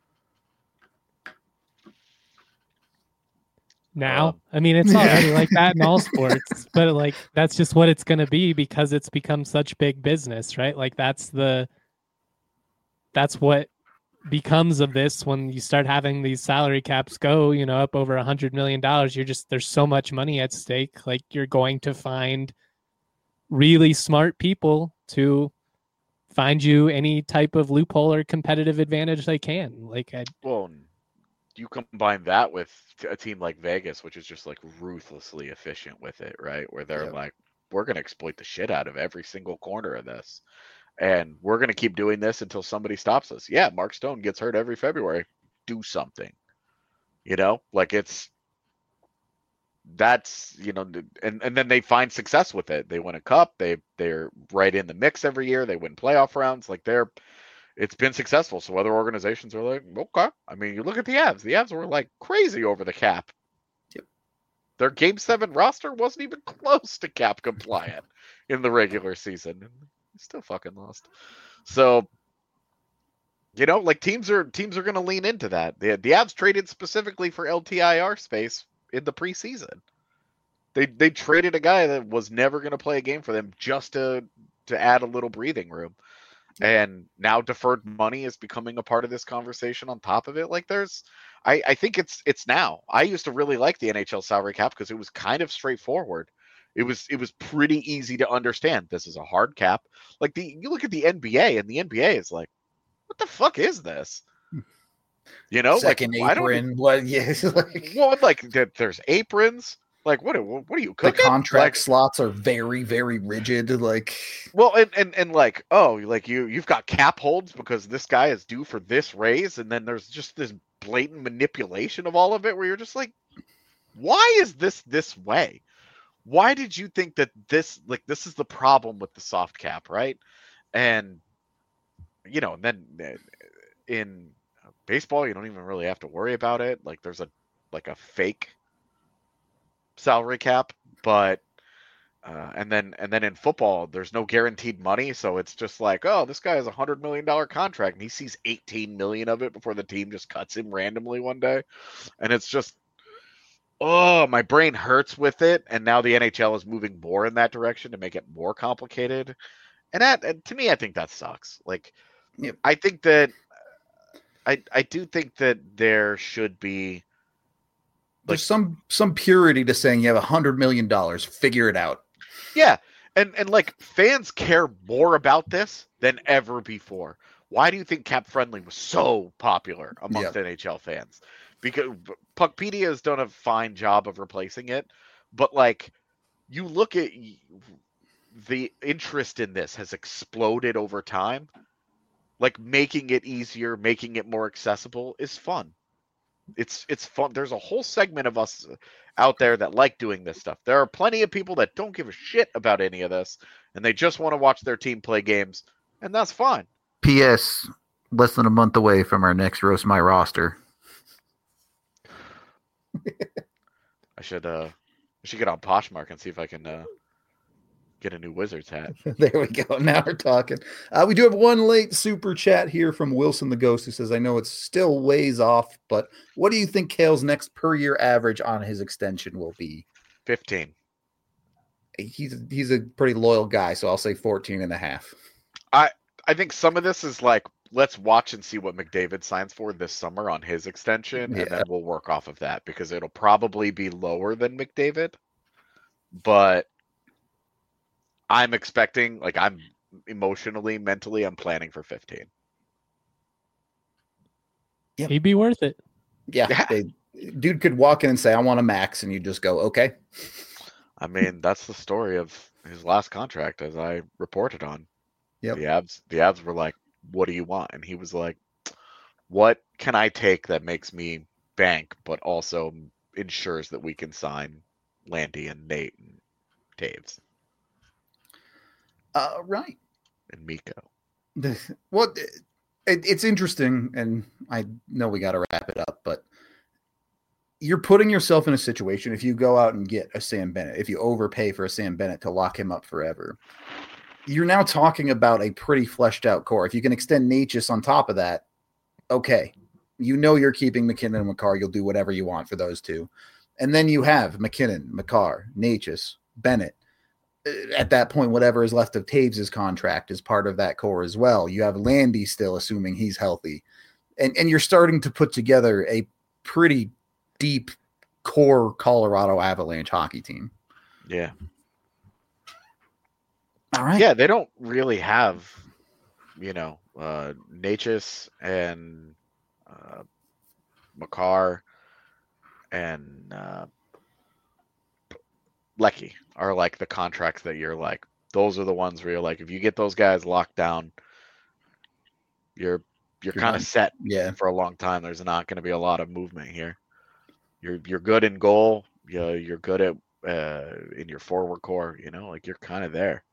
Now, um, I mean, it's already yeah. like that in all sports, but like, that's just what it's going to be because it's become such big business, right? Like that's the, that's what becomes of this when you start having these salary caps go, you know, up over a hundred million dollars. You're just there's so much money at stake. Like you're going to find really smart people to find you any type of loophole or competitive advantage they can. Like, I,
well, you combine that with a team like Vegas, which is just like ruthlessly efficient with it, right? Where they're
Yep.
like, we're going to exploit the shit out of every single corner of this. And we're going to keep doing this until somebody stops us. Yeah, Mark Stone gets hurt every February. Do something. You know, like it's, that's, you know, and, and then they find success with it. They win a cup. They, they're right in the mix every year. They win playoff rounds. Like they're, it's been successful. So other organizations are like, okay. I mean, you look at the Avs. The Avs were like crazy over the cap.
Yep.
Their game seven roster wasn't even close to cap compliant in the regular season. And they still fucking lost. So, you know, like teams are teams are going to lean into that. The the Avs traded specifically for L T I R space in the preseason. They they traded a guy that was never going to play a game for them just to to add a little breathing room. And now deferred money is becoming a part of this conversation on top of it. Like there's, I, I think it's it's now. I used to really like the N H L salary cap because it was kind of straightforward. It was it was pretty easy to understand. This is a hard cap. Like the you look at the N B A and the N B A is like, what the fuck is this? You know,
Second
like
apron.
I don't.
What? Yeah. Like,
well, like there's aprons. Like what? What are you
the
cooking?
contract
Like,
slots are very, very rigid. Like,
well, and, and and like, oh, like you you've got cap holds because this guy is due for this raise, and then there's just this blatant manipulation of all of it where you're just like, why is this this way? Why did you think that this like this is the problem with the soft cap, right? And you know, and then in baseball, you don't even really have to worry about it. Like there's a like a fake salary cap, but uh, and then and then in football, there's no guaranteed money, so it's just like, oh, this guy has a hundred million dollar contract, and he sees eighteen million of it before the team just cuts him randomly one day, and it's just, oh, my brain hurts with it. And now the N H L is moving more in that direction to make it more complicated, and that and to me, I think that sucks. Like,
Yep.
I think that I I do think that there should be.
There's some some purity to saying you have a hundred million dollars. Figure it out.
Yeah, and and like fans care more about this than ever before. Why do you think Cap Friendly was so popular amongst
Yeah.
N H L fans? Because Puckpedia has done a fine job of replacing it, but like you look at the interest in this has exploded over time. Like making it easier, making it more accessible is fun. It's it's fun. There's a whole segment of us out there that like doing this stuff. There are plenty of people that don't give a shit about any of this, and they just want to watch their team play games, and that's fine.
P S. Less than a month away from our next Roast My Roster.
I should uh, I should get on Poshmark and see if I can uh, get a new Wizards hat.
There we go. Now we're talking. Uh, we do have one late super chat here from Wilson the Ghost who says, I know it's still ways off, but what do you think Kale's next per year average on his extension will be?
fifteen.
He's he's a pretty loyal guy, so I'll say fourteen and a half.
I I think some of this is like, let's watch and see what McDavid signs for this summer on his extension,
Yeah.
and then we'll work off of that because it'll probably be lower than McDavid, but I'm expecting, like, I'm emotionally, mentally, I'm planning for fifteen.
Yep.
He'd be worth it.
Yeah.
Yeah.
They, dude could walk in and say, I want a max, and you just go, okay.
I mean, that's the story of his last contract, as I reported on.
Yep.
The Avs, the Avs were like, what do you want? And he was like, what can I take that makes me bank, but also ensures that we can sign Landy and Nate and Taves
Uh, right.
and Miko?
Well, it, it's interesting, and I know we got to wrap it up, but you're putting yourself in a situation if you go out and get a Sam Bennett, if you overpay for a Sam Bennett to lock him up forever, you're now talking about a pretty fleshed out core. If you can extend Natchez on top of that, okay. You know you're keeping McKinnon and Makar. You'll do whatever you want for those two. And then you have McKinnon, Makar, Natchez, Bennett. At that point, whatever is left of Taves' contract is part of that core as well. You have Landy still, assuming he's healthy. and, and you're starting to put together a pretty deep core Colorado Avalanche hockey team.
Yeah.
All right.
Yeah, they don't really have, you know, uh, Necas and uh, Makar and uh, Lecky are like the contracts that you're like, those are the ones where you're like, if you get those guys locked down, you're you're,
You're
kind of
done.
set
Yeah.
for a long time. There's not going to be a lot of movement here. You're you're good in goal. You know, you're good at uh, in your forward core. You know, like you're kind of there.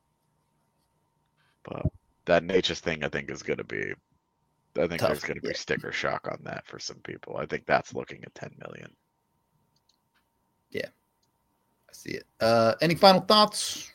But that Necas thing, I think, is going to be. I think
Tough.
there's going to be
Yeah.
sticker shock on that for some people. I think that's looking at ten million.
Yeah, I see it. Uh, any final thoughts?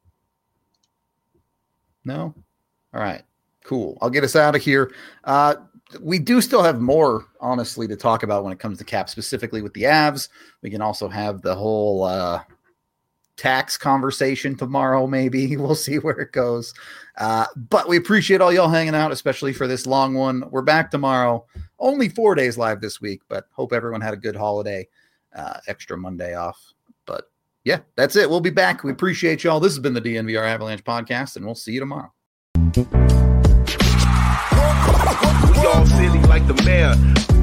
No? All right, cool. I'll get us out of here. Uh, we do still have more, honestly, to talk about when it comes to cap, specifically with the Avs. We can also have the whole uh, tax conversation tomorrow, maybe. We'll see where it goes. Uh, but we appreciate all y'all hanging out, especially for this long one. We're back tomorrow. Only four days live this week, but hope everyone had a good holiday. Uh, extra Monday off. But yeah, that's it. We'll be back. We appreciate y'all. This has been the D N V R Avalanche podcast, and we'll see you tomorrow.
We all silly like the mayor.